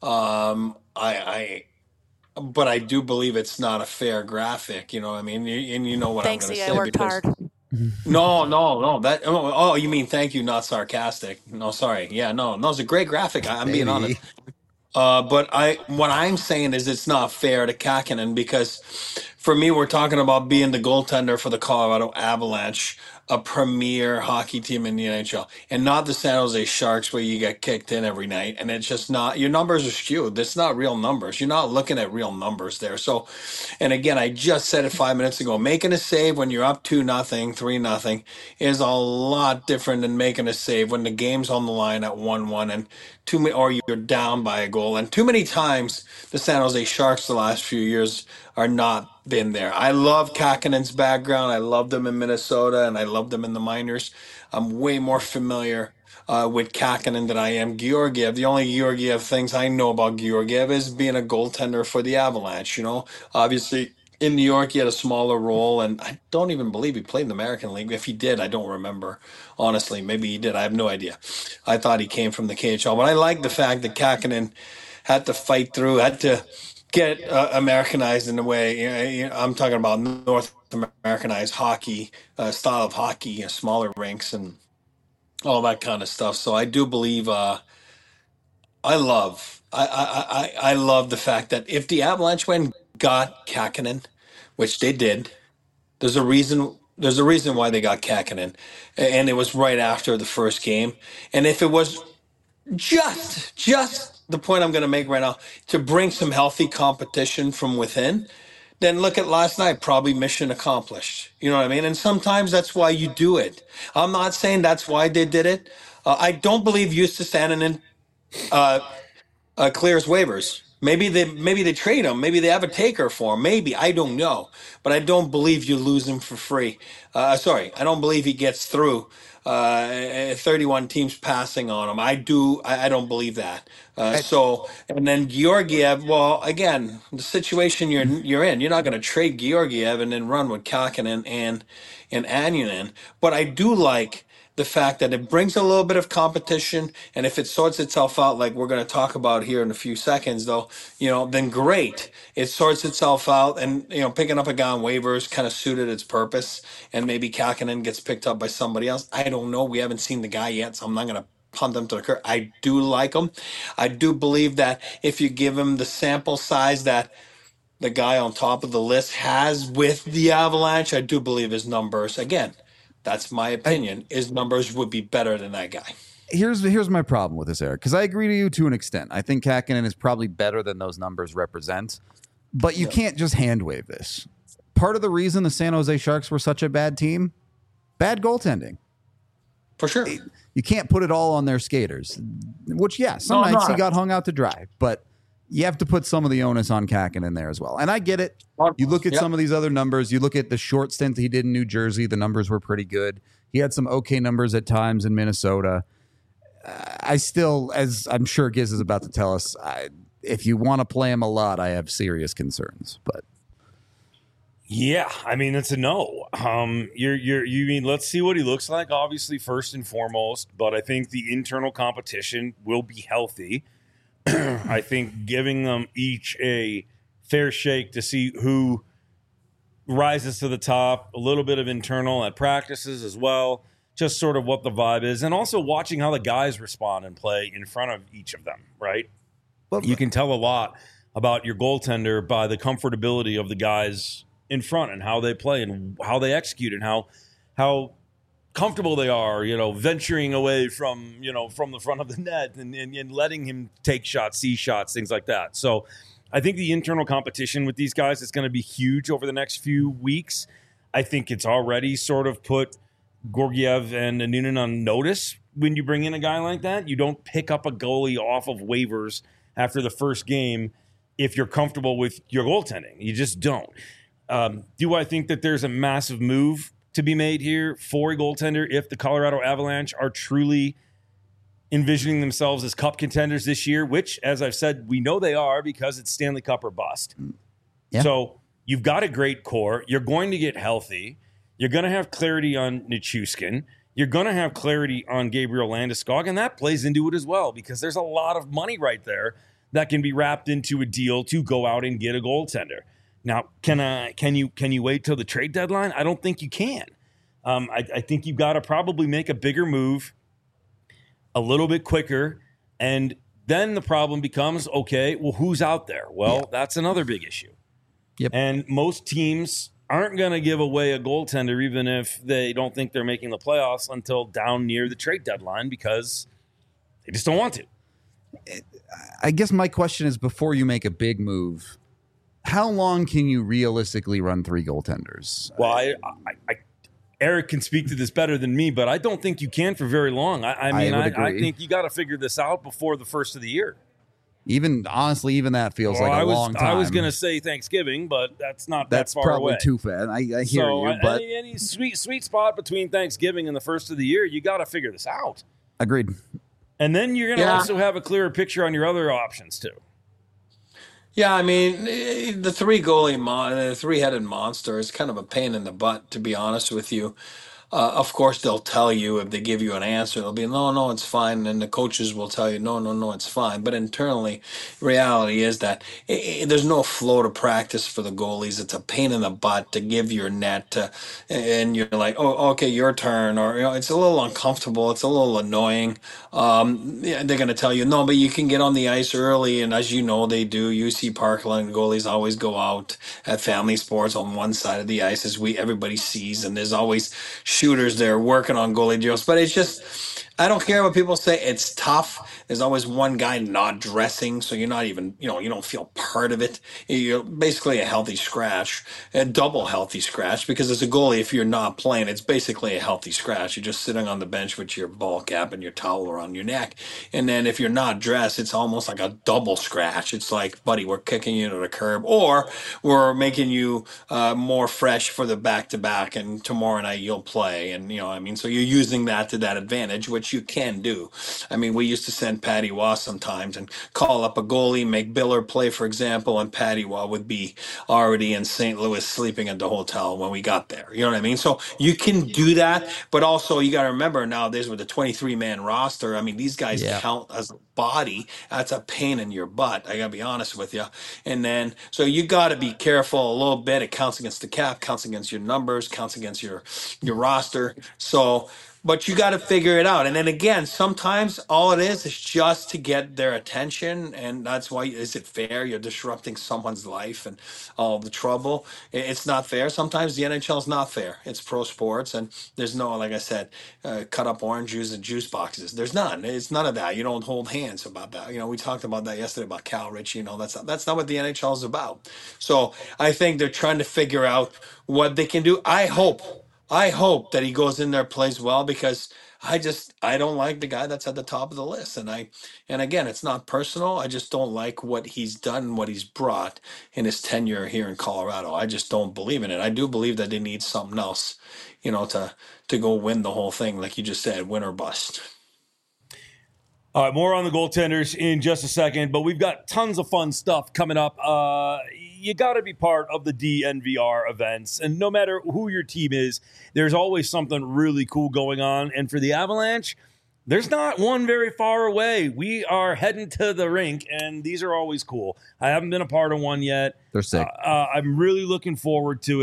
But I do believe it's not a fair graphic, you know what I mean? And you know what Thanks, I'm going to E. say. I worked hard. No. Oh, you mean thank you, not sarcastic. No, sorry. Yeah, no, it's a great graphic. I'm being honest. But what I'm saying is it's not fair to Kakkonen because for me, we're talking about being the goaltender for the Colorado Avalanche, a premier hockey team in the NHL, and not the San Jose Sharks where you get kicked in every night. And it's just not, your numbers are skewed. That's not real numbers. You're not looking at real numbers there. So, and again, I just said it 5 minutes ago, making a save when you're up 2-0, 3-0 is a lot different than making a save when the game's on the line at 1-1 and or you're down by a goal. And too many times the San Jose Sharks the last few years are not been there. I love Kakkonen's background. I loved him in Minnesota and I loved him in the minors. I'm way more familiar with Kakkonen than I am Georgiev. The only Georgiev things I know about Georgiev is being a goaltender for the Avalanche. You know, obviously in New York he had a smaller role, and I don't even believe he played in the American League. If he did, I don't remember. Honestly, maybe he did. I have no idea. I thought he came from the KHL, but I like the fact that Kakkonen had to fight through, had to get Americanized in a way. You know, I'm talking about North Americanized hockey, style of hockey, smaller rinks, and all that kind of stuff. So I do believe. I love the fact that if the Avalanche went and got Kakkonen, which they did, there's a reason. There's a reason why they got Kakkonen, and it was right after the first game. And if it was just the point I'm going to make right now, to bring some healthy competition from within, then look at last night, probably mission accomplished. You know what I mean? And sometimes that's why you do it. I'm not saying that's why they did it. I don't believe Justus Annunen clears waivers. Maybe they trade him. Maybe they have a taker for him. Maybe, I don't know. But I don't believe you lose him for free. I don't believe he gets through. 31 teams passing on him. I don't believe that. And then Georgiev. Well, again, the situation you're in, you're not going to trade Georgiev and then run with Kakkonen and Annunen. But I do like the fact that it brings a little bit of competition, and if it sorts itself out, like we're going to talk about here in a few seconds, though, then great. It sorts itself out, and picking up a guy on waivers kind of suited its purpose, and maybe Kakkonen gets picked up by somebody else. I don't know. We haven't seen the guy yet, so I'm not going to punt him to the curb. I do like him. I do believe that if you give him the sample size that the guy on top of the list has with the Avalanche, I do believe his numbers, again, that's my opinion, his numbers would be better than that guy. Here's my problem with this, Eric, because I agree to you to an extent. I think Kakkonen is probably better than those numbers represent, but you can't just hand wave this. Part of the reason the San Jose Sharks were such a bad team, bad goaltending. For sure. You can't put it all on their skaters, which, some nights he got hung out to dry, but you have to put some of the onus on Kakkonen there as well. And I get it. You look at some of these other numbers. You look at the short stint he did in New Jersey. The numbers were pretty good. He had some okay numbers at times in Minnesota. I still, as I'm sure Giz is about to tell us, if you want to play him a lot, I have serious concerns. But yeah, I mean, it's a no. You mean let's see what he looks like, obviously, first and foremost. But I think the internal competition will be healthy. I think giving them each a fair shake to see who rises to the top, a little bit of internal at practices as well, just sort of what the vibe is, and also watching how the guys respond and play in front of each of them, right? You can tell a lot about your goaltender by the comfortability of the guys in front and how they play and how they execute and how comfortable they are, venturing away from the front of the net and letting him take shots, see shots, things like that. So I think the internal competition with these guys is going to be huge over the next few weeks. I think it's already sort of put Georgiev and Noonan on notice. When you bring in a guy like that, you don't pick up a goalie off of waivers after the first game if you're comfortable with your goaltending. You just don't. Do I think that there's a massive move to be made here for a goaltender if the Colorado Avalanche are truly envisioning themselves as cup contenders this year, which, as I've said, we know they are because it's Stanley Cup or bust. Yeah. So you've got a great core. You're going to get healthy. You're going to have clarity on Nichushkin. You're going to have clarity on Gabriel Landeskog, and that plays into it as well because there's a lot of money right there that can be wrapped into a deal to go out and get a goaltender. Now, can you wait till the trade deadline? I don't think you can. I think you've got to probably make a bigger move a little bit quicker, and then the problem becomes, okay, well, who's out there? Well, that's another big issue. Yep. And most teams aren't going to give away a goaltender even if they don't think they're making the playoffs until down near the trade deadline because they just don't want to. I guess my question is, before you make a big move, how long can you realistically run three goaltenders? Well, Eric can speak to this better than me, but I don't think you can for very long. I think you got to figure this out before the first of the year. Even that feels like a long time. I was going to say Thanksgiving, but that's not that far away. That's probably too fast. I hear you, but any sweet spot between Thanksgiving and the first of the year, you got to figure this out. Agreed. And then you're going to also have a clearer picture on your other options too. Yeah, I mean, the the three-headed monster is kind of a pain in the butt, to be honest with you. Of course, they'll tell you if they give you an answer, they'll be, no, it's fine. And the coaches will tell you, no, it's fine. But internally, reality is that there's no flow to practice for the goalies. It's a pain in the butt to give your net and you're like, oh, okay, your turn. Or, it's a little uncomfortable. It's a little annoying. They're going to tell you, no, but you can get on the ice early. And as you know, they do. UC Parkland goalies always go out at family sports on one side of the ice as everybody sees. And there's always shooters there working on goalie deals, but it's just, I don't care what people say. It's tough. There's always one guy not dressing, so you're not even, you don't feel part of it. You're basically a healthy scratch, a double healthy scratch, because as a goalie, if you're not playing, it's basically a healthy scratch. You're just sitting on the bench with your ball cap and your towel around your neck. And then if you're not dressed, it's almost like a double scratch. It's like, buddy, we're kicking you to the curb, or we're making you more fresh for the back-to-back, and tomorrow night you'll play. And, so you're using that to that advantage, which you can do. I mean, we used to send Patty Waugh sometimes and call up a goalie, make Biller play, for example, and Patty Waugh would be already in St. Louis sleeping at the hotel when we got there. You know what I mean? So you can do that, but also you got to remember nowadays with the 23-man roster, I mean, these guys count as a body. That's a pain in your butt. I got to be honest with you. And then, so you got to be careful a little bit. It counts against the cap, counts against your numbers, counts against your roster. So, but you got to figure it out. And then again, sometimes all it is just to get their attention. And that's why, is it fair? You're disrupting someone's life and all the trouble. It's not fair. Sometimes the NHL is not fair. It's pro sports. And there's no, like I said, cut up orange juice and juice boxes. There's none. It's none of that. You don't hold hands about that. We talked about that yesterday about Cal Ritchie. That's not what the NHL is about. So I think they're trying to figure out what they can do. I hope that he goes in there, plays well, because I don't like the guy that's at the top of the list. And again, it's not personal. I just don't like what he's done, what he's brought in his tenure here in Colorado. I just don't believe in it. I do believe that they need something else, to go win the whole thing. Like you just said, win or bust. All right, more on the goaltenders in just a second, but we've got tons of fun stuff coming up. You got to be part of the DNVR events, and no matter who your team is, there's always something really cool going on. And for the Avalanche, there's not one very far away. We are heading to the rink, and these are always cool. I haven't been a part of one yet. They're sick. I'm really looking forward to it.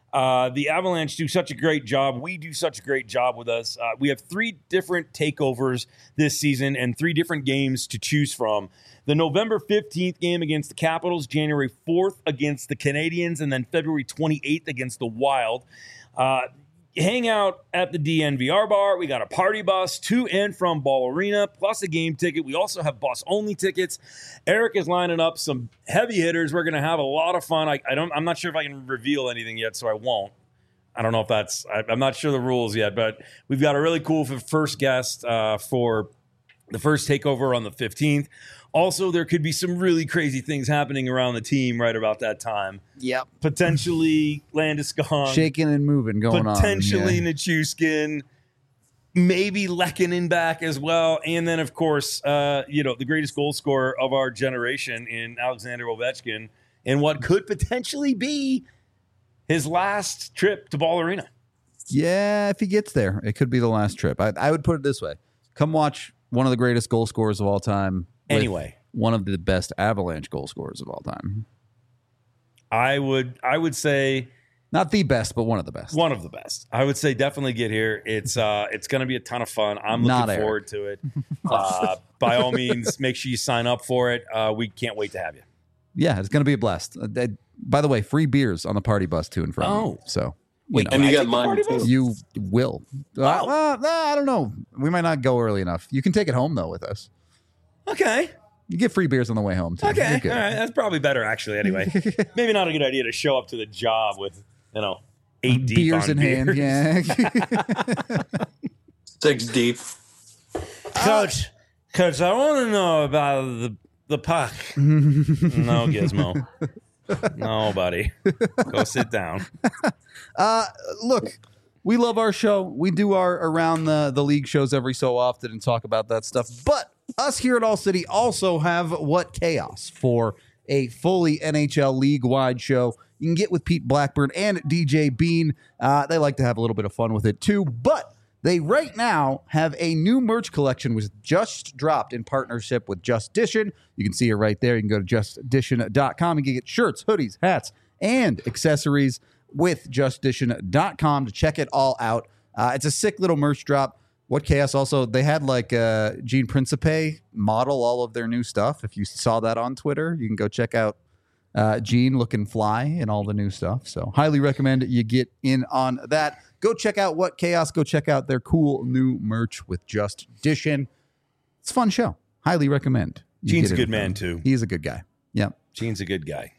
The Avalanche do such a great job. We do such a great job with us. We have 3 different takeovers this season and 3 different games to choose from. The November 15th game against the Capitals, January 4th against the Canadiens, and then February 28th against the Wild. Hang out at the DNVR bar. We got a party bus to and from Ball Arena, plus a game ticket. We also have bus-only tickets. Eric is lining up some heavy hitters. We're going to have a lot of fun. I'm not sure if I can reveal anything yet, so I won't. I don't know if I'm not sure the rules yet, but we've got a really cool first guest for the first takeover on the 15th. Also, there could be some really crazy things happening around the team right about that time. Yep. Potentially Landeskog. Shaking and moving going on. Potentially Nichushkin. Maybe Lehkonen back as well. And then, of course, the greatest goal scorer of our generation in Alexander Ovechkin and what could potentially be his last trip to Ball Arena. Yeah, if he gets there, it could be the last trip. I would put it this way. Come watch one of the greatest goal scorers of all time. Anyway, one of the best Avalanche goal scorers of all time. I would say not the best, but one of the best. One of the best. I would say definitely get here. It's going to be a ton of fun. I'm looking forward to it. By all means, make sure you sign up for it. We can't wait to have you. Yeah, it's going to be a blast. By the way, free beers on the party bus to and from. Oh, so. And you got mine too. You will. I don't know. We might not go early enough. You can take it home though with us. Okay. You get free beers on the way home too. Okay. All right. That's probably better actually. Anyway, maybe not a good idea to show up to the job with 8 deep beers on in hand. Yeah. 6 deep. Coach, I want to know about the puck. No, Gizmo. No, buddy. Go sit down. Look, we love our show. We do our around the league shows every so often and talk about that stuff. But us here at All City also have What Chaos for a fully NHL league-wide show. You can get with Pete Blackburn and DJ Bean. They like to have a little bit of fun with it too. But they right now have a new merch collection which just dropped in partnership with Just Dishin. You can see it right there. You can go to justdishin.com and get shirts, hoodies, hats, and accessories with justdishin.com to check it all out. It's a sick little merch drop. What Chaos also, they had like Gene Principe model all of their new stuff. If you saw that on Twitter, you can go check out Gene looking fly and all the new stuff. So highly recommend you get in on that. Go check out What Chaos. Go check out their cool new merch with Just Dishin. It's a fun show. Highly recommend. Gene's a good man too. He's a good guy. Yeah. Gene's a good guy.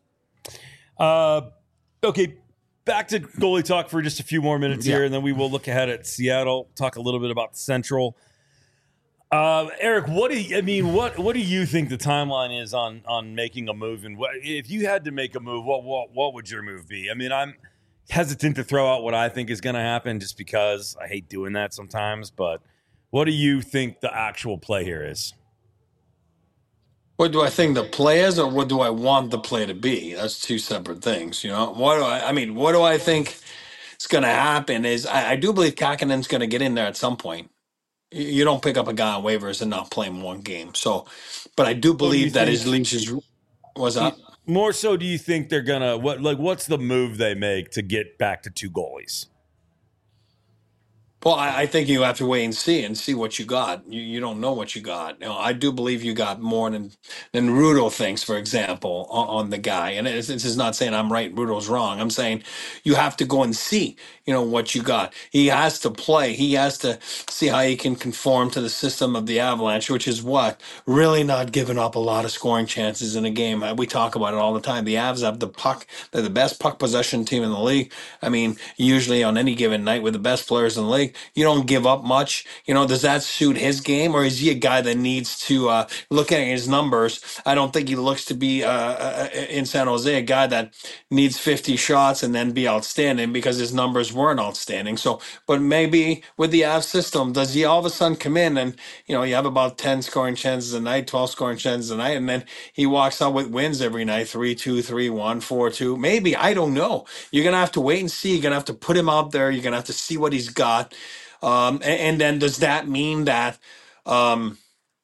Okay. Back to goalie talk for just a few more minutes here, and then we will look ahead at Seattle, talk a little bit about the Central. Eric, what do you think the timeline is on making a move? And if you had to make a move, what would your move be? I mean, I'm hesitant to throw out what I think is going to happen just because I hate doing that sometimes. But what do you think the actual play here is? What do I think the play is, or what do I want the play to be? That's 2 separate things. What do I think is going to happen is I do believe Kakanen's going to get in there at some point. You don't pick up a guy on waivers and not play him 1 game. So, but I do believe that his leash was up. More so, do you think they're gonna what's the move they make to get back to 2 goalies? Well, I think you have to wait and see what you got. You don't know what you got. I do believe you got more than Rudo thinks, for example, on the guy. And this is not saying I'm right, Rudo's wrong. I'm saying you have to go and see, what you got. He has to play. He has to see how he can conform to the system of the Avalanche, which is what? Really not giving up a lot of scoring chances in a game. We talk about it all the time. The Avs have the puck. They're the best puck possession team in the league. I mean, usually on any given night with the best players in the league, you don't give up much. Does that suit his game, or is he a guy that needs to look at his numbers? I don't think he looks to be in San Jose a guy that needs 50 shots and then be outstanding because his numbers weren't outstanding. So, but maybe with the Avs system, does he all of a sudden come in and you have about 10 scoring chances a night, 12 scoring chances a night, and then he walks out with wins every night, 3-2, 3-1, 4-2? Maybe, I don't know. You're gonna have to wait and see. You're gonna have to put him out there. You're gonna have to see what he's got. And then does that mean that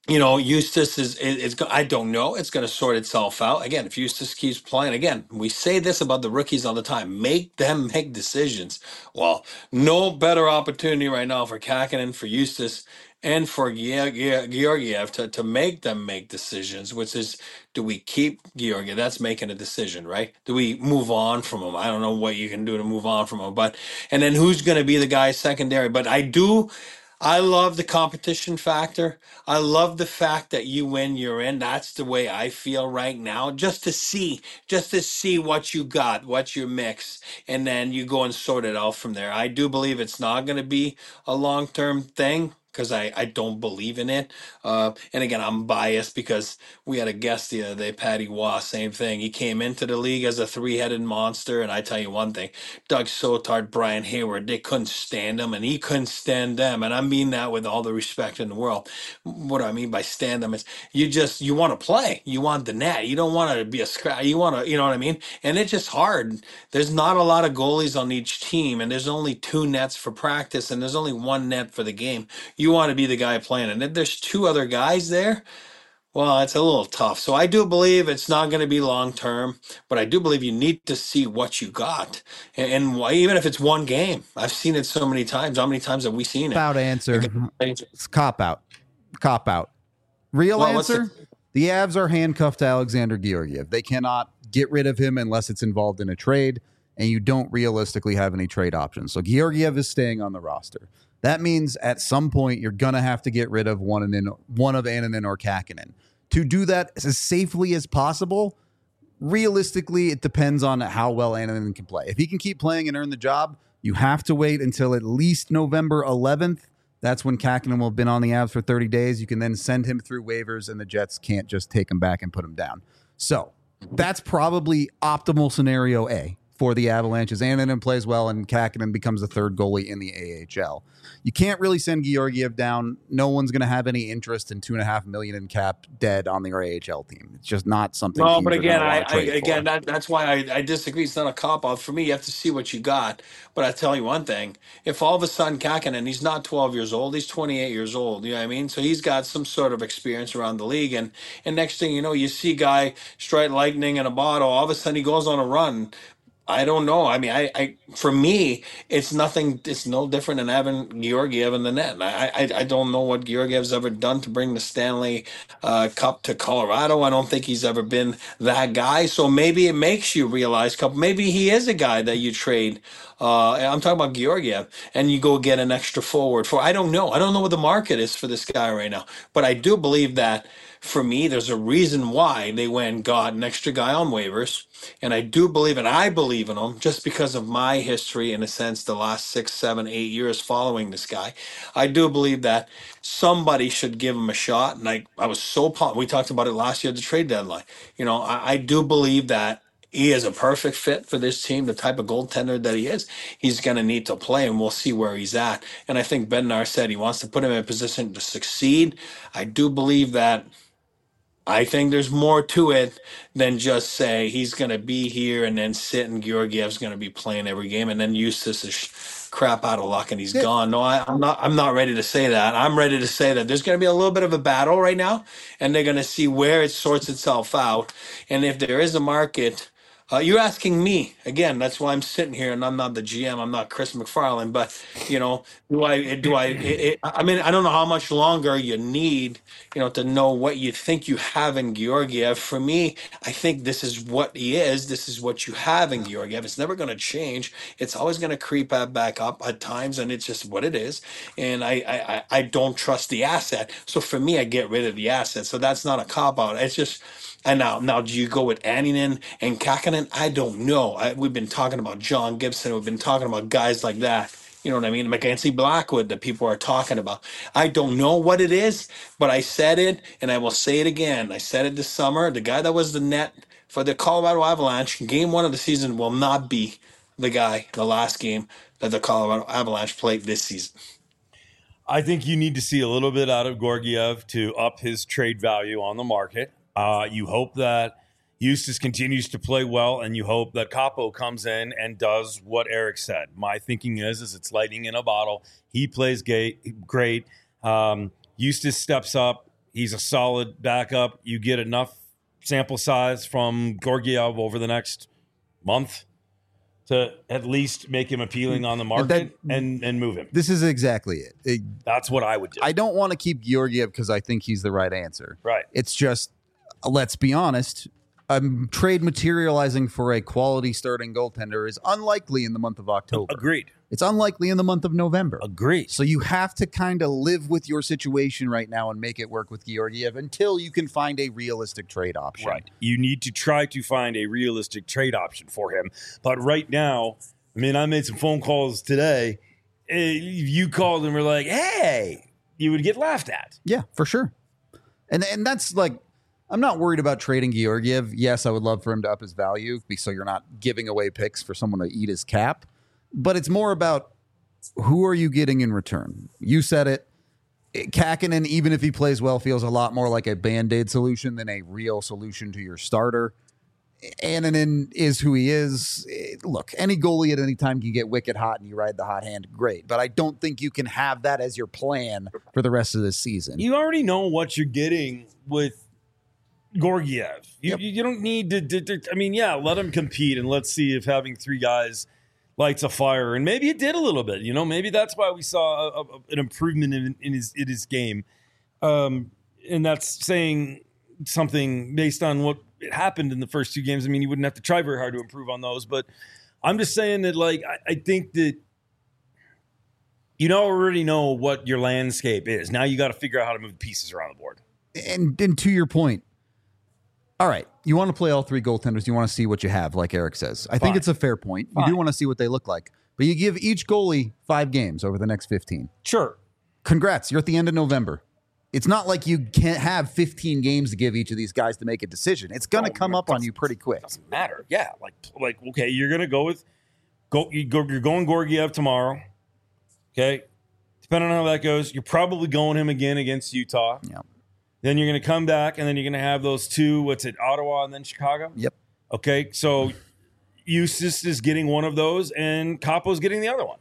Eustace is I don't know. It's going to sort itself out. Again, if Eustace keeps playing, again, we say this about the rookies all the time. Make them make decisions. Well, no better opportunity right now for Kakinen, for Eustace, and for Georgiev to make them make decisions, which is, do we keep Georgiev? That's making a decision, right? Do we move on from him? I don't know what you can do to move on from him, and then who's going to be the guy secondary? But I love the competition factor. I love the fact that you win, you're in. That's the way I feel right now. Just to see what you got, what you mix, and then you go and sort it out from there. I do believe it's not going to be a long-term thing because I don't believe in it. And again, I'm biased because we had a guest the other day, Patty Waugh, same thing. He came into the league as a three-headed monster, and I tell you one thing. Doug Sotard, Brian Hayward, they couldn't stand him, and he couldn't stand them. And I mean that with all the respect in the world. What do I mean by stand them is you want to play, you want the net, you don't want to be a scrap, you want to, you know what I mean. And it's just hard. There's not a lot of goalies on each team, and there's only two nets for practice, and there's only one net for the game. You want to be the guy playing, and if there's two other guys there, well, it's a little tough. So I do believe it's not going to be long term, but I do believe you need to see what you got, and why, even if it's one game. I've seen it so many times. How many times have we seen it? About answer. It's cop out. Cop out. Real answer. The Avs are handcuffed to Alexander Georgiev. They cannot get rid of him unless it's involved in a trade, and you don't realistically have any trade options. So Georgiev is staying on the roster. That means at some point you're going to have to get rid of one of Annunen or Kakinen. To do that as safely as possible, realistically, it depends on how well Annunen can play. If he can keep playing and earn the job, you have to wait until at least November 11th. That's when Kakinen will have been on the Avs for 30 days. You can then send him through waivers, and the Jets can't just take him back and put him down. So that's probably optimal scenario A for the Avalanche, as Annunen plays well and Kakinen becomes the third goalie in the AHL. You can't really send Georgiev down. No one's going to have any interest in $2.5 million in cap dead on the AHL team. It's just not something. No, but again, that's why I disagree. It's not a cop out for me. You have to see what you got. But I tell you one thing: if all of a sudden Kakinen, he's not 12 years old, he's 28 years old. You know what I mean? So he's got some sort of experience around the league, and next thing you know, you see guy strike lightning in a bottle. All of a sudden, he goes on a run. I don't know. I mean, I for me, it's nothing. It's no different than having Georgiev in the net. I don't know what Georgiev's ever done to bring the Stanley Cup to Colorado. I don't think he's ever been that guy. So maybe it makes you realize, maybe he is a guy that you trade. I'm talking about Georgiev, and you go get an extra forward for. I don't know. I don't know what the market is for this guy right now, but I do believe that. For me, there's a reason why they went and got an extra guy on waivers. And I do believe, and I believe in him just because of my history, in a sense, the last 6, 7, 8 years following this guy. I do believe that somebody should give him a shot. And I was so pumped. We talked about it last year at the trade deadline. I do believe that he is a perfect fit for this team, the type of goaltender that he is. He's going to need to play, and we'll see where he's at. And I think Bednar said he wants to put him in a position to succeed. I do believe that. I think there's more to it than just say he's going to be here and then sit and Georgiev's going to be playing every game and then Eustace is crap out of luck and he's gone. No, I'm not. I'm not ready to say that. I'm ready to say that there's going to be a little bit of a battle right now, and they're going to see where it sorts itself out. And if there is a market. You're asking me again. That's why I'm sitting here, and I'm not the GM. I'm not Chris McFarland. But I mean, I don't know how much longer you need, to know what you think you have in Georgiev. For me, I think this is what he is. This is what you have in Georgiev. It's never going to change. It's always going to creep back up at times, and it's just what it is. And I don't trust the asset. So for me, I get rid of the asset. So that's not a cop out. It's just. And now, do you go with Annunen and Kakinen? I don't know. We've been talking about John Gibson. We've been talking about guys like that. You know what I mean? Mackenzie Blackwood that people are talking about. I don't know what it is, but I said it, and I will say it again. I said it this summer. The guy that was the net for the Colorado Avalanche, game one of the season, will not be the last game that the Colorado Avalanche played this season. I think you need to see a little bit out of Georgiev to up his trade value on the market. You hope that Eustace continues to play well, and you hope that Capo comes in and does what Eric said. My thinking is it's lightning in a bottle. He plays great. Eustace steps up. He's a solid backup. You get enough sample size from Georgiev over the next month to at least make him appealing on the market and move him. This is exactly it. That's what I would do. I don't want to keep Georgiev because I think he's the right answer. Right. It's just, let's be honest, trade materializing for a quality starting goaltender is unlikely in the month of October. Agreed. It's unlikely in the month of November. Agreed. So you have to kind of live with your situation right now and make it work with Georgiev until you can find a realistic trade option. Right. You need to try to find a realistic trade option for him. But right now, I mean, I made some phone calls today. If you called and were like, hey, you would get laughed at. Yeah, for sure. And that's like, I'm not worried about trading Georgiev. Yes, I would love for him to up his value so you're not giving away picks for someone to eat his cap. But it's more about who are you getting in return? You said it. Kakinen, even if he plays well, feels a lot more like a Band-Aid solution than a real solution to your starter. Annunen is who he is. Look, any goalie at any time can get wicked hot and you ride the hot hand. Great. But I don't think you can have that as your plan for the rest of this season. You already know what you're getting with Georgiev. You don't need to I mean, yeah, let him compete and let's see if having three guys lights a fire. And maybe it did a little bit. You know, maybe that's why we saw an improvement in his game. And that's saying something based on what happened in the first two games. I mean, you wouldn't have to try very hard to improve on those. But I'm just saying that, like, I think that you already know what your landscape is. Now you got to figure out how to move the pieces around the board. And to your point, all right, you want to play all three goaltenders. You want to see what you have, like Eric says. I think it's a fair point. You do want to see what they look like. But you give each goalie 5 games over the next 15. Sure. Congrats. You're at the end of November. It's not like you can't have 15 games to give each of these guys to make a decision. It's going to come up on you pretty quick. Doesn't matter. Yeah. Like okay, you're going to you're going Georgiev tomorrow. Okay. Depending on how that goes, you're probably going him again against Utah. Yeah. Then you're going to come back, and then you're going to have those two, Ottawa and then Chicago? Yep. Okay, so Eustace is getting one of those, and Capo's getting the other one.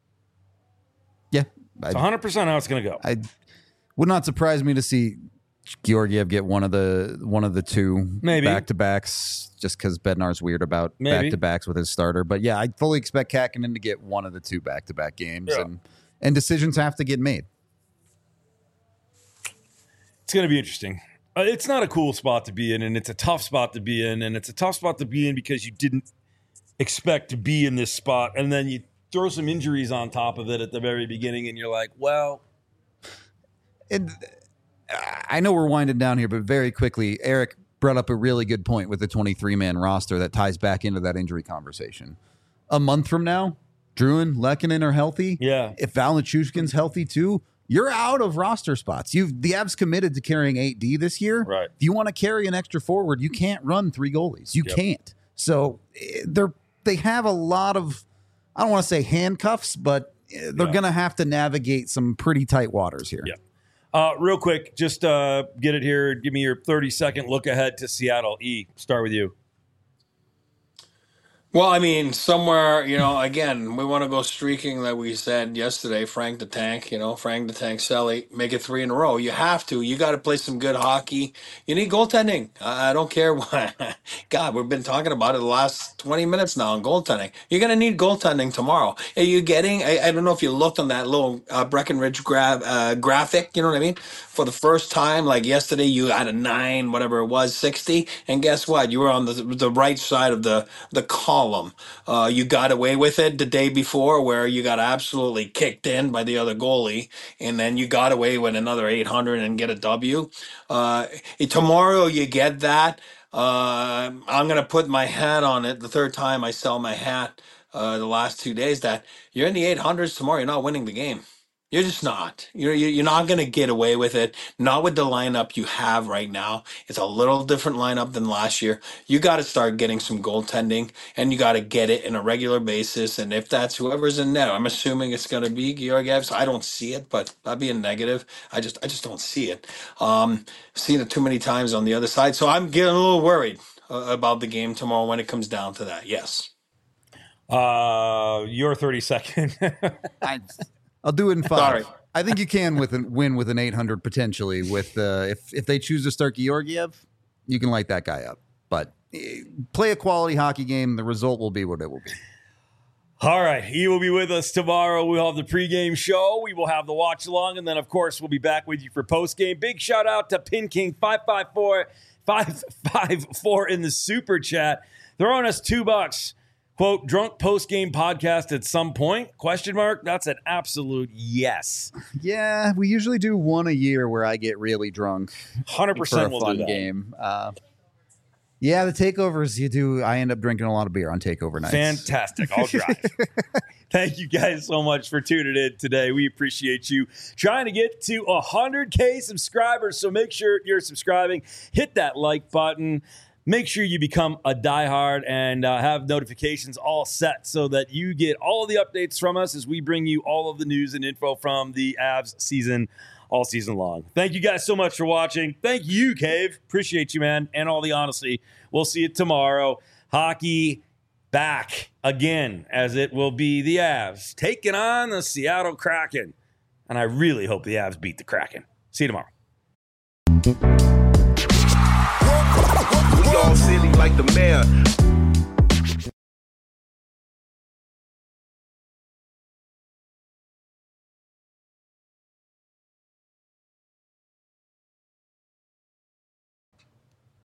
Yeah. It's 100% how it's going to go. I would not surprise me to see Georgiev get one of the two Maybe back-to-backs, just because Bednar's weird about back-to-backs with his starter. But yeah, I fully expect Kakinen to get one of the two back-to-back games, and decisions have to get made. It's going to be interesting. It's not a cool spot to be in, and it's a tough spot to be in, and it's a tough spot to be in because you didn't expect to be in this spot, and then you throw some injuries on top of it at the very beginning, and you're like, well. And I know we're winding down here, but very quickly, Eric brought up a really good point with the 23-man roster that ties back into that injury conversation. A month from now, Drouin, Lehkonen are healthy. Yeah. If Val Nichushkin's healthy too, you're out of roster spots. The Avs committed to carrying 8D this year. Right. If you want to carry an extra forward, you can't run 3 goalies. You can't. So they have a lot of, I don't want to say handcuffs, but they're going to have to navigate some pretty tight waters here. Yeah. Real quick, just get it here. Give me your 30-second look ahead to Seattle. E, start with you. Well, I mean, somewhere, again, we want to go streaking like we said yesterday, Frank the Tank Selly, make it 3 in a row. You have to. You got to play some good hockey. You need goaltending. I don't care what. God, we've been talking about it the last 20 minutes now on goaltending. You're going to need goaltending tomorrow. Are you getting, I don't know if you looked on that little Breckenridge graphic, you know what I mean? For the first time, like yesterday, you had a 9, whatever it was, 60. And guess what? You were on the right side of the column. You got away with it the day before where you got absolutely kicked in by the other goalie, and then you got away with another 800 and get a W. Tomorrow you get that. I'm going to put my hat on it. The third time I sell my hat the last 2 days that you're in the 800s tomorrow. You're not winning the game. You're just not. You're not going to get away with it. Not with the lineup you have right now. It's a little different lineup than last year. You got to start getting some goaltending, and you got to get it in a regular basis. And if that's whoever's in net, I'm assuming it's going to be Georgiev. So I don't see it, but that'd be a negative. I just don't see it. Seen it too many times on the other side, so I'm getting a little worried about the game tomorrow when it comes down to that. Yes. Your 30-second. I'll do it in 5. Sorry. I think you can win with an 800 potentially. With if they choose to start Georgiev, you can light that guy up. But play a quality hockey game. The result will be what it will be. All right. He will be with us tomorrow. We'll have the pregame show. We will have the watch along. And then, of course, we'll be back with you for postgame. Big shout out to Pin King 554 in the super chat. Throwing us $2. Quote, drunk postgame podcast at some point? ? That's an absolute yes. Yeah, we usually do one a year where I get really drunk. 100% for a we'll fun do that. game. Yeah, the takeovers you do. I end up drinking a lot of beer on takeover nights. Fantastic. I'll drive. Thank you guys so much for tuning in today. We appreciate you trying to get to 100K subscribers. So make sure you're subscribing. Hit that like button. Make sure you become a diehard and have notifications all set so that you get all the updates from us as we bring you all of the news and info from the Avs season all season long. Thank you guys so much for watching. Thank you, Cave. Appreciate you, man, and all the honesty. We'll see you tomorrow. Hockey back again, as it will be the Avs taking on the Seattle Kraken. And I really hope the Avs beat the Kraken. See you tomorrow. We all silly like the mayor.